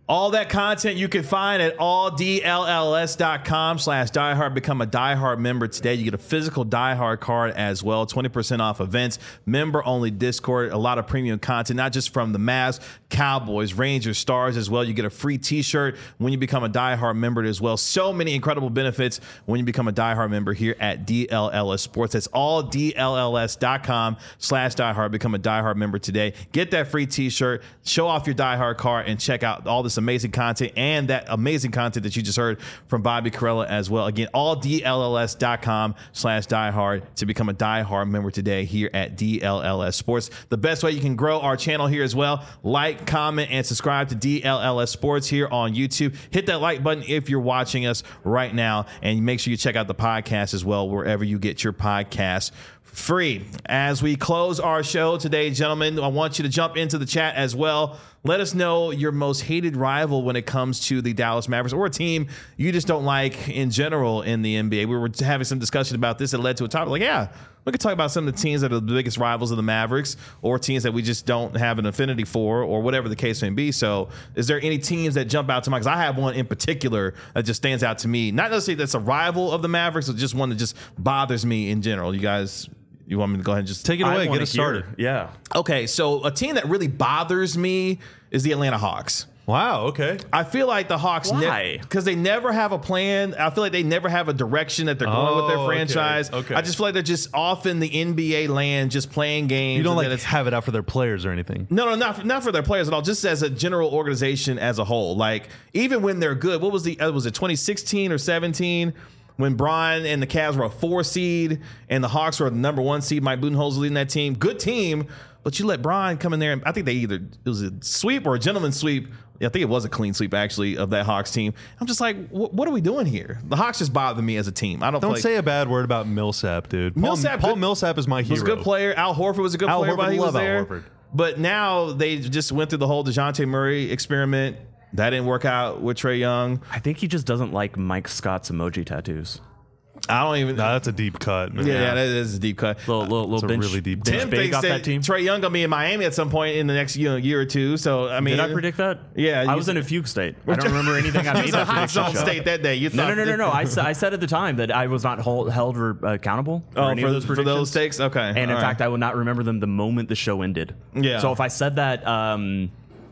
All that content you can find at all D L L S dot com slash diehard. Become a diehard member today. You get a physical diehard card as well. twenty percent off events, member only Discord, a lot of premium content, not just from the Mavs, Cowboys, Rangers, Stars as well. You get a free t-shirt when you become a diehard member as well. So many incredible benefits when you become a diehard member here at D L L S Sports. That's all D L L S dot com slash diehard. Become a diehard member today. Get that free t-shirt, show off your diehard card, and check out all this amazing content and that amazing content that you just heard from Bobby Karalla as well. Again, all D L L S dot com slash diehard to become a diehard member today here at D L L S Sports. The best way you can grow our channel here as well, like, comment, and subscribe to D L L S Sports here on YouTube. Hit that like button if you're watching us right now, and make sure you check out the podcast as well, wherever you get your podcasts free. As we close our show today, gentlemen, I want you to jump into the chat as well. Let us know your most hated rival when it comes to the Dallas Mavericks, or a team you just don't like in general in the N B A. We were having some discussion about this that led to a topic like, yeah, we could talk about some of the teams that are the biggest rivals of the Mavericks, or teams that we just don't have an affinity for, or whatever the case may be. So is there any teams that jump out to mind? Because I have one in particular that just stands out to me. Not necessarily that's a rival of the Mavericks, but just one that just bothers me in general. You guys... You want me to go ahead and just take it away, get wanna us started? hear- Yeah. Okay, so a team that really bothers me is the Atlanta Hawks. Wow. Okay. I feel like the Hawks, Why? because they never have a plan. I feel like they never have a direction that they're going with Oh, their okay, franchise. okay. I just feel like they're just off in the N B A land, just playing games. You don't and like then it's- have it out for their players or anything. No, no, not for, not for their players at all. Just as a general organization as a whole. Like even when they're good, what was the uh, was it twenty sixteen or seventeen? When Bron and the Cavs were a four seed and the Hawks were the number one seed, Mike Budenholzer leading that team. Good team, but you let Bron come in there, and I think they either it was a sweep or a gentleman's sweep. I think it was a clean sweep actually of that Hawks team. I'm just like, what, what are we doing here? The Hawks just bother me as a team. I don't Don't feel like, say a bad word about Millsap, dude. Paul, Millsap Paul good- Millsap is my hero. was a good player. Al Horford was a good Al player Horford, while he was love Al there. Horford. But now they just went through the whole DeJounte Murray experiment. That didn't work out with Trae Young. I think he just doesn't like Mike Scott's emoji tattoos. I don't even. Nah, that's a deep cut, man. yeah, yeah, that is a deep cut. Little, little, little a bench, really deep bench Tim big thinks off that, that team. Trae Young gonna be in Miami at some point in the next you know, year or two. So I mean, Did I predict that? Yeah, I you was said- in a fugue state. I don't remember anything I He made was that in hot prediction zone show. state that day. You No, thought no, no, no, no. I, s- I said at the time that I was not hold, held re- accountable for Oh, any for, of those for predictions. those takes, okay. And in all fact, right. I would not remember them the moment the show ended. Yeah. So if I said that, um,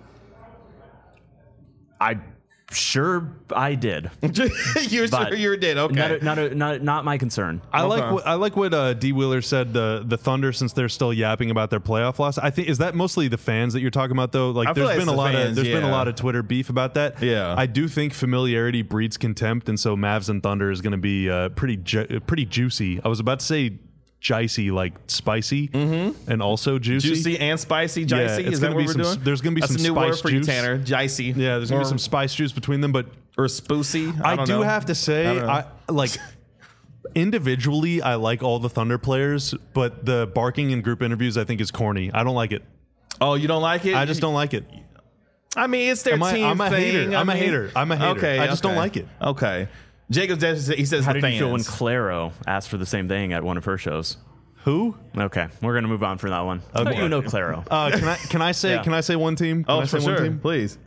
I sure I did. you're But sure you did. Okay. Not, a, not, a, not, not my concern. I like Okay. what, I like what uh, D Wheeler said. The the Thunder, since they're still yapping about their playoff loss, I think is that mostly the fans that you're talking about though. Like I feel there's like been a it's the lot fans, of there's been a yeah. lot of Twitter beef about that. Yeah. I do think familiarity breeds contempt, and so Mavs and Thunder is going to be uh, pretty ju- pretty juicy. I was about to say jicey, like spicy, mm-hmm. and also juicy. Juicy and spicy, Yeah, jicey. it's Is that gonna what be we're some- doing? there's gonna be That's some a new spice word for you, juice. Tanner. Jicey. Yeah, there's gonna Or- be some spice juice between them, but or spoosy. I, I, don't do know. have to I say, don't know. I, like individually, I like all the Thunder players, but the barking in group interviews I think is corny. I don't like it. Oh, you don't like it? I just don't like it. I mean, it's their Am I- team I'm a thing. hater. I I'm a mean- hater. I'm a hater. Okay, I just okay. don't like it. Okay. Jacob, says- he says How the did fans. you feel when Claro asked for the same thing at one of her shows? Who? Okay, we're gonna move on from that one. Okay. Okay. You know Claro. Uh, can I can I say Yeah. can I say one team? Can oh, I say for one sure. team? Please.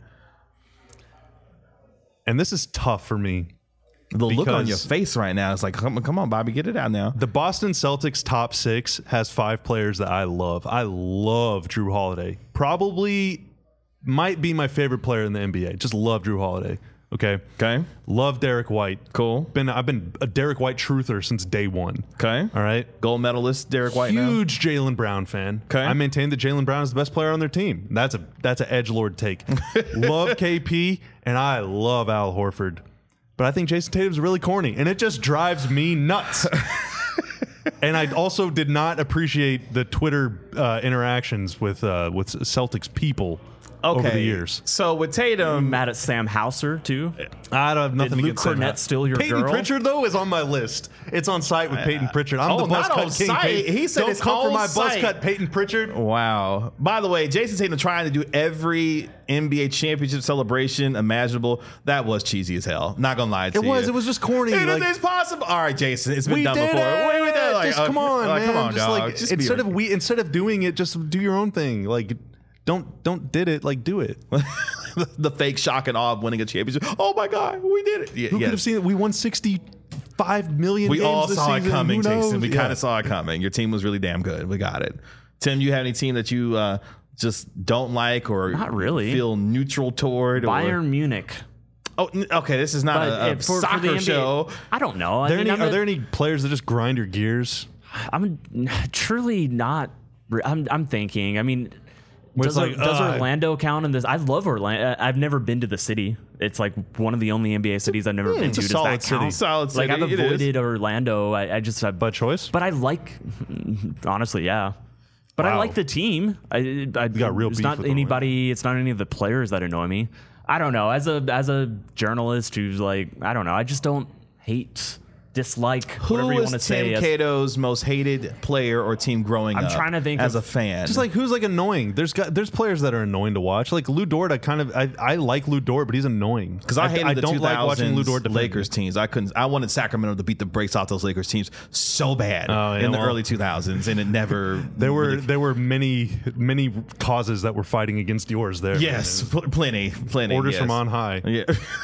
And this is tough for me. The look on Because- your face right now is like, come on, come on, Bobby, get it out now. The Boston Celtics top six has five players that I love. I love Drew Holiday. Probably might be my favorite player in the N B A. Just love Drew Holiday. Okay. Okay. Love Derek White. Cool. Been I've been a Derek White truther since day one. Okay. All right. Gold medalist Derek White now. Huge Jaylen Brown fan. 'Kay. I maintain that Jaylen Brown is the best player on their team. That's a that's an edgelord take. Love K P and I love Al Horford. But I think Jason Tatum's really corny and it just drives me nuts. And I also did not appreciate the Twitter uh, interactions with uh, with Celtics people Okay. over the years. So with Tatum, Mad at Sam Hauser too. I don't have nothing Luke against Sam Cornett Howard. still your Peyton girl? Pritchard though is on my list. It's on site with Peyton Pritchard. I'm Oh, the buzz not cut on king. site. Peyton. He said don't it's come for on my buzz site. cut, Peyton Pritchard. wow. By the way, Jason Tatum trying to do every N B A championship celebration imaginable. That was cheesy as hell. Not gonna lie to It you. was. It was just corny. Anything like- is possible. All right, Jason. It's been we done did before. it. Wait, we did it. Like, just uh, come on, like, man. Come on, just dog. like Just be instead of re- we instead of doing it, just do your own thing. Like don't don't did it like do it. the, the fake shock and awe of winning a championship. Oh my God, we did it! Yeah, Who yes. could have seen it? We won sixty-five million. We games all this saw season. it coming, Who knows? Jason. We Yeah. kind of saw it coming. Your team was really damn good. We got it. Tim, you have any team that you uh, just don't like or Not really. feel neutral toward? Bayern Or, Munich. oh, n- okay. This is not But a, a uh, for, for soccer the N B A, show. I don't know. I Are there, mean, any, I'm are a- there any players that just grind your gears? I'm truly not. I'm, I'm thinking. I mean, Where does, it's like, does uh, Orlando count in this? I love Orlando. I've never been to the city. It's like one of the only N B A cities I've never been it's to. a Does solid that city. count? Solid Like I've city. It is. avoided Orlando. I, I just. I, By choice? but I like. Honestly, yeah. But I Wow. like the team. I, I got real It's beef not with anybody. It's not any of the players that annoy me. I don't know. As a as a journalist who's like, I don't know. I just don't hate, dislike, whatever Who you was want to say. Tim as- Cato's most hated player or team growing I'm up? trying to think as of- a fan. Just like who's like annoying. There's got there's players that are annoying to watch. Like Lou Dort, I kind of I, I like Lou Dort, but he's annoying. because I hated I the don't like watching Lou Dort defend. Lakers teams. I couldn't. I wanted Sacramento to beat the brakes off those Lakers teams so bad Oh, yeah, in the well, early two thousands, and it never. There were really- there were many many causes that were fighting against yours there. yes, pl- plenty, plenty. Orders yes. from on high. Yeah.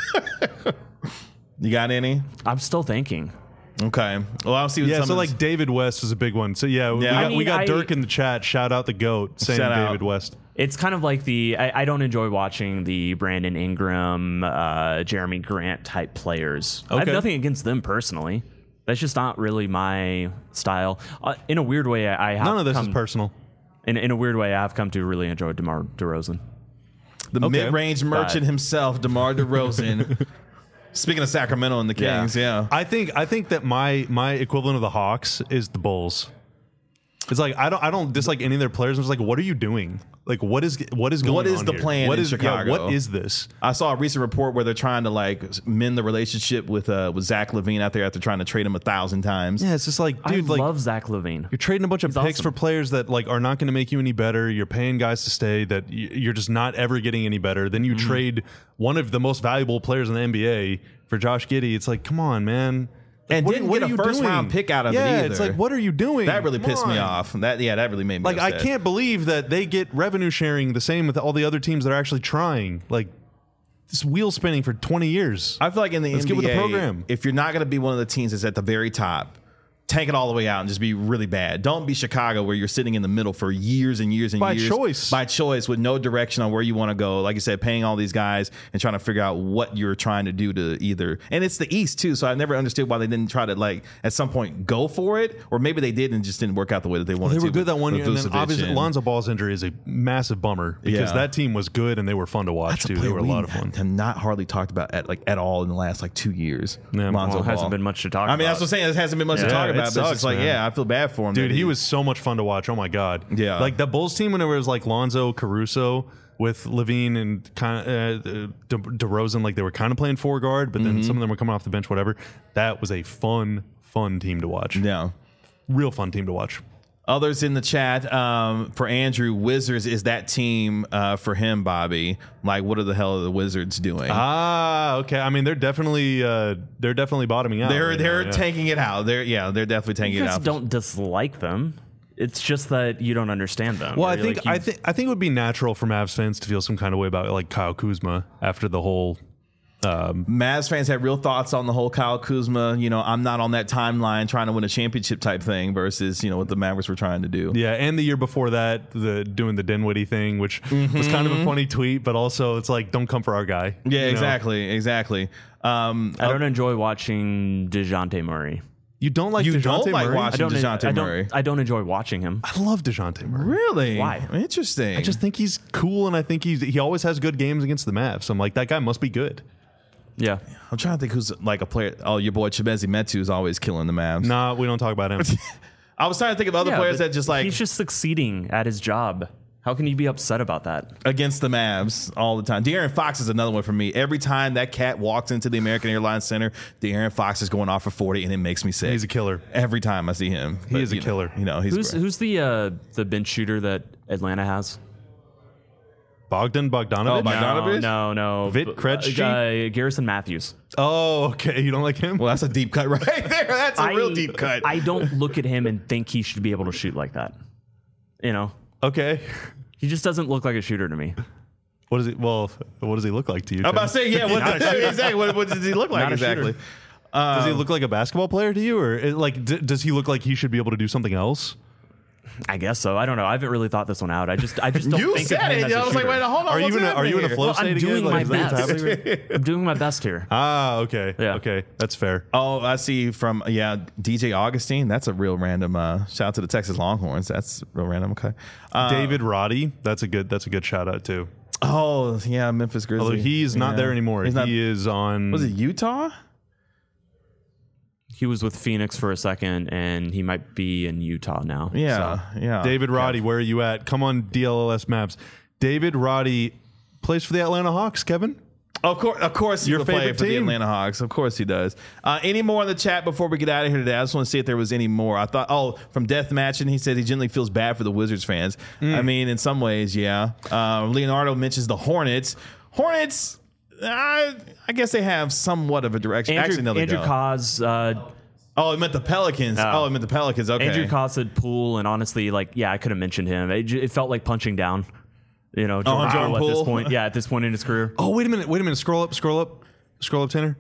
You got any? I'm still thinking. Okay. Well, I'll see. What Yeah, some so of like this- David West was a big one. So yeah, we Yeah. got, I mean, we got I- Dirk in the chat. Shout out the GOAT saying Shout out. David West. It's kind of like the I, I don't enjoy watching the Brandon Ingram, uh, Jeremy Grant type players. I have Okay. nothing against them personally. That's just not really my style. Uh, in a weird way, I, I have None of this come, is personal. In, in a weird way, I have come to really enjoy DeMar DeRozan. the Okay. mid-range merchant But- himself, DeMar DeRozan. Speaking of Sacramento and the Yeah. Kings, yeah. I think I think that my my equivalent of the Hawks is the Bulls. It's like I don't I don't dislike any of their players. I'm just like, what are you doing? Like, what is what is going What is on the here? plan What in is- yeah, Chicago? what is this? I saw a recent report where they're trying to like mend the relationship with uh, with Zach LaVine out there after trying to trade him a thousand times. Yeah, it's just like, dude, I like love Zach LaVine. you're trading a bunch of He's picks awesome. for players that like are not going to make you any better. You're paying guys to stay that y- you're just not ever getting any better. Then you Mm-hmm. trade one of the most valuable players in the N B A for Josh Giddey. It's like, come on, man. Like, And didn't get are a you first doing? round pick out of it yeah, either. it's like, what are you doing? That really Come pissed me on. off. That yeah, that really made me Like, I upset. can't believe that they get revenue sharing the same with all the other teams that are actually trying. Like, this wheel spinning for twenty years. I feel like in the Let's N B A, get with the program. if you're not going to be one of the teams that's at the very top, tank it all the way out and just be really bad. Don't be Chicago where you're sitting in the middle for years and years and By years. choice. By choice with no direction on where you want to go. Like you said, paying all these guys and trying to figure out what you're trying to do to either. And it's the East too, so I never understood why they didn't try to like at some point go for it, or maybe they did and just didn't work out the way that they wanted They to. were good with- that one with year, and then Vucevic obviously and- Lonzo Ball's injury is a massive bummer because Yeah. that team was good and they were fun to watch That's a too. They player were a we lot of fun. have not hardly talked about at like at all in the last like two years. Yeah, Lonzo Well, it hasn't Ball. been much to talk I mean, about. that's what I'm saying. It hasn't been much to Yeah, talk it about. But it's sucks, just like, man. yeah, I feel bad for him. Dude, that he was so much fun to watch. Oh my god. Yeah. Like the Bulls team whenever it was like Lonzo, Caruso with Levine and kind of uh, De- DeRozan, like they were kind of playing four guard, but Mm-hmm. then some of them were coming off the bench, whatever. That was a fun, fun team to watch. Yeah. Real fun team to watch. Others in the chat um, for Andrew, Wizards is that team uh, for him, Bobby. Like, what are the hell are the Wizards doing? Ah, okay. I mean, they're definitely uh, they're definitely bottoming out. they're right they're now, yeah. tanking it out. They're yeah, they're definitely tanking You it guys out. don't dislike them. It's just that you don't understand them. Well, I Or, think like, you- I think I think it would be natural for Mavs fans to feel some kind of way about like Kyle Kuzma after the whole. Um, Mavs fans have real thoughts on the whole Kyle Kuzma. You know, I'm not on that timeline trying to win a championship type thing versus you know what the Mavericks were trying to do. yeah, and the year before that, the doing the Dinwiddie thing, which was kind of a funny tweet, but also it's like, don't come for our guy. Yeah, you know? exactly, exactly. Um, I don't enjoy watching DeJounte Murray. You don't like You DeJounte don't like Murray? watching- I don't. DeJounte I don't. Murray. I don't enjoy watching him. I love DeJounte Murray. really? Why? Interesting. I just think he's cool, and I think he's he always has good games against the Mavs. I'm like, that guy must be good. Yeah. I'm trying to think who's like a player. Oh, your boy Chimezie Metu is always killing the Mavs. Nah, we don't talk about him. I was trying to think of other Yeah, players but that just like he's just succeeding at his job. How can you be upset about that? against the Mavs all the time. De'Aaron Fox is another one for me. Every time that cat walks into the American Airlines Center, De'Aaron Fox is going off for forty, and it makes me sick. He's a killer. Every time I see him, He is a you know- killer. You know, he's Who's great. who's the uh, the bench shooter that Atlanta has? Bogdan Bogdanovic. Oh, my- Bogdanovic? No, no, no. Vit Krejci? Uh, Garrison Matthews. Oh, okay. You don't like him? Well, that's a deep cut right there. That's a I- real deep cut. I don't look at him and think he should be able to shoot like that. You know, Okay. He just doesn't look like a shooter to me. What does he? Well, what does he look like to you? I'm about to say, yeah. What, exactly. What, what does he look like Not a exactly? shooter. Um, Does he look like a basketball player to you, or it, like d- does he look like he should be able to do something else? I guess so. I don't know. I haven't really thought this one out. I just, I just don't You think said of him it. as a I was like, shooter. wait, hold on. Are you what's in a, are you in a happening flow Well, state I'm again? doing Like, my is that what's best. happening? I'm doing my best here. Ah, okay, Yeah. okay, that's fair. Oh, I see from, yeah, D J Augustine. That's a real random uh, shout out to the Texas Longhorns. That's real random. Okay. Uh, David Roddy, that's a good, that's a good shout out too. Oh, yeah, Memphis Grizzlies. Although he's not Yeah. there anymore. He's he not, is on. was it Utah? He was with Phoenix for a second, and he might be in Utah now. Yeah, yeah. David Roddy, where are you at? Come on, D L L S Maps. David Roddy plays for the Atlanta Hawks, Kevin. Of course, of course, he Your would play favorite for the team? Atlanta Hawks. Of course, he does. Uh, any more in the chat before we get out of here today? I just want to see if there was any more. I thought, oh, from Death Matching, he said he generally feels bad for the Wizards fans. Mm. I mean, in some ways, yeah. Uh, Leonardo mentions the Hornets. Hornets, I, I guess they have somewhat of a direction. Andrew, Actually, no, they Andrew don't. Cos, uh, Oh, it meant the Pelicans. Oh. Oh, it meant the Pelicans. Okay. Andrew Cos said Poole, and honestly, like, yeah, I could have mentioned him. It, j- it felt like punching down. You know, Jordan, Jordan Poole at Poole? this point. Yeah, at this point in his career. Oh, wait a minute, wait a minute. Scroll up, scroll up, scroll up, Tanner.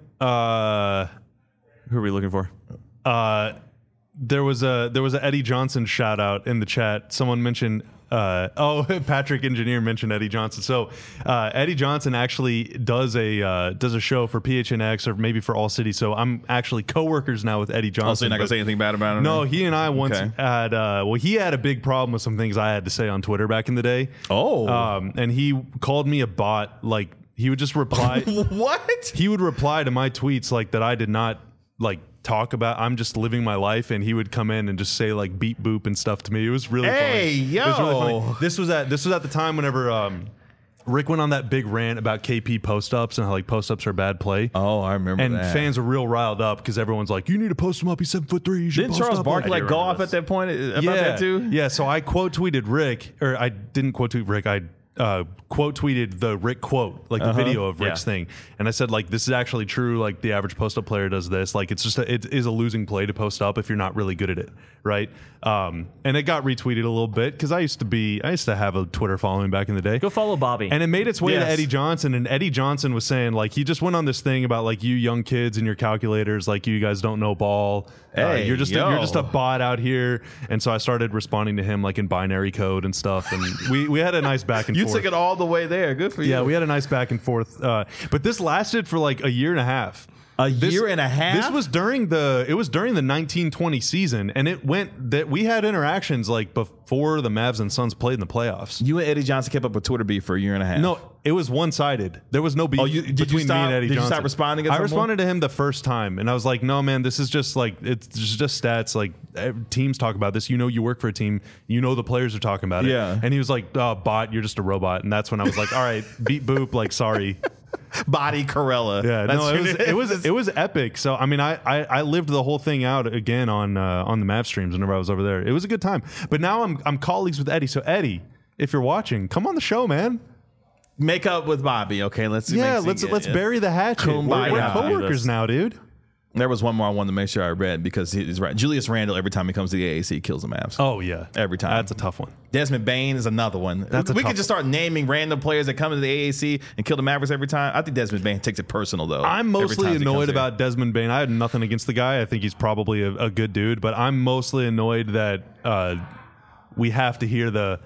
Uh, Who are we looking for? uh, there was a there was a Eddie Johnson shout out in the chat. Someone mentioned. Uh, oh, Patrick Engineer mentioned Eddie Johnson. So uh, Eddie Johnson actually does a uh, does a show for P H N X or maybe for All City. So I'm actually coworkers now with Eddie Johnson. Oh, so you're not going to but- say anything bad about him? No, he and I once Okay. had. Uh, well, he had a big problem with some things I had to say on Twitter back in the day. Oh. um, and he called me a bot. Like he would just reply. What? He would reply to my tweets like that I did not like talk about. I'm just living my life, and he would come in and just say like beep boop and stuff to me. It was really Hey, funny. It was really yo. funny. This was at this was at the time whenever um, Rick went on that big rant about K P post ups and how like post ups are bad play. Oh, I remember And that. fans are real riled up because everyone's like, "You need to post him up. He's seven foot three. You should Didn't post Charles up Barkley him." like do go remember off this. at that point about yeah. that too? Yeah, so I quote tweeted Rick, or I didn't quote tweet Rick. I uh, quote tweeted the Rick quote, like the Uh-huh. video of Rick's Yeah. thing, and I said like, this is actually true. Like the average post up player does this. Like it's just a, it is a losing play to post up if you're not really good at it, right? Um, and it got retweeted a little bit because I used to be I used to have a Twitter following back in the day. Go follow Bobby. And it made its way Yes. to Eddie Johnson, and Eddie Johnson was saying like he just went on this thing about like you young kids and your calculators, like you guys don't know ball. Uh, Hey, you're just a, yo. you're just a bot out here. And so I started responding to him like in binary code and stuff, and we we had a nice back and You forth. took it all the way there. Good for you. Yeah, we had a nice back and forth. Uh, but this lasted for like a year and a half. A This- year and a half? This was during the it was during the nineteen twenty season, and it went that we had interactions like before the Mavs and Suns played in the playoffs. You and Eddie Johnson kept up with Twitter beef for a year and a half. No, it was one sided. There was no beef Oh, you- did you between stop- me and Eddie did you Johnson. stop responding at I some point? responded to him the first time, and I was like, "No, man, this is just like it's just stats. Like eh, teams talk about this. You know, you work for a team. You know, the players are talking about it." Yeah. And he was like, oh, "Bot, you're just a robot." And that's when I was like, "All right, beat boop. Like, sorry." Body Corella. Yeah, That's no, it your was name. it was it was epic. So I mean, I I, I lived the whole thing out again on uh, on the Mav streams whenever I was over there. It was a good time. But now I'm I'm colleagues with Eddie. So Eddie, if you're watching, come on the show, man. Make up with Bobby. Okay, let's Yeah, make- let's yeah, let's yeah. bury the hatchet. We're, Kumbaya. we're Yeah, coworkers this. now, dude. There was one more I wanted to make sure I read because he's right. Julius Randle, every time he comes to the A A C, kills the Mavs. Oh yeah, Every time. That's a tough one. Desmond Bain is another one. That's a we tough could just start naming random players that come to the A A C and kill the Mavericks every time. I think Desmond Bain takes it personal though. I'm every mostly time he comes annoyed here. about Desmond Bain. I had nothing against the guy. I think he's probably a, a good dude, but I'm mostly annoyed that uh, we have to hear the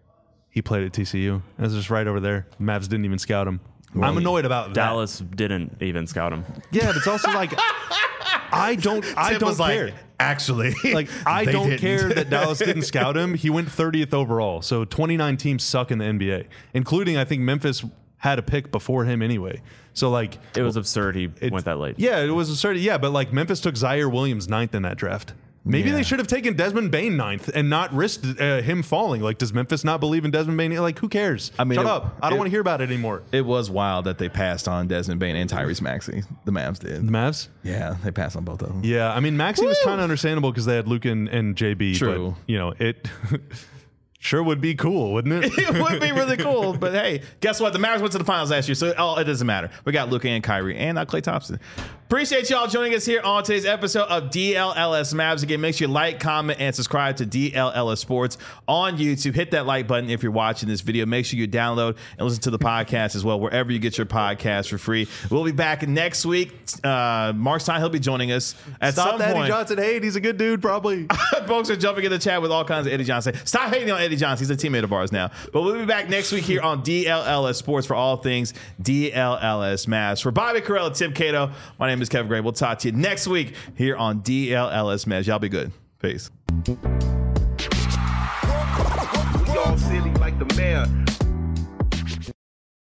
he played at T C U. That's just right over there. Mavs didn't even scout him. I'm annoyed about that. Dallas didn't even scout him. Yeah, but it's also like I don't I Tim don't was like, care. actually, Like I they don't didn't. care that Dallas didn't scout him. He went thirtieth overall. So twenty-nine teams suck in the N B A, including I think Memphis had a pick before him anyway. So like It was absurd he it- went that late. Yeah, it was absurd. Yeah, but like Memphis took Zaire Williams ninth in that draft. Maybe Yeah. they should have taken Desmond Bain ninth and not risked uh, him falling. Like, does Memphis not believe in Desmond Bain? Like, who cares? I mean, Shut it- up. I don't it- want to hear about it anymore. It was wild that they passed on Desmond Bain and Tyrese Maxey. The Mavs did. The Mavs? Yeah, they passed on both of them. Yeah, I mean, Maxey was Woo! kind of understandable because they had Luke and, and J B. True. But, you know, it sure would be cool, wouldn't it? It would be really cool, but hey, guess what? The Mavericks went to the finals last year, so oh, it doesn't matter. We got Luka and Kyrie and uh, Klay Thompson. Appreciate y'all joining us here on today's episode of D L L S Mavs. Again, make sure you like, comment, and subscribe to D L L S Sports on YouTube. Hit that like button if you're watching this video. Make sure you download and listen to the podcast as well, wherever you get your podcast for free. We'll be back next week. Uh, Mark Stein, he'll be joining us at Stop some the point. Eddie Johnson hate. He's a good dude, probably. Folks are jumping in the chat with all kinds of Eddie Johnson. Stop hating on Eddie Johnson. He's a teammate of ours now. But we'll be back next week here on D L L S Sports for all things D L L S Mavs. For Bobby Karalla, Tim Cato, my name is Kevin Gray. We'll talk to you next week here on D L L S Mavs. Y'all be good. Peace. We all silly like the mayor.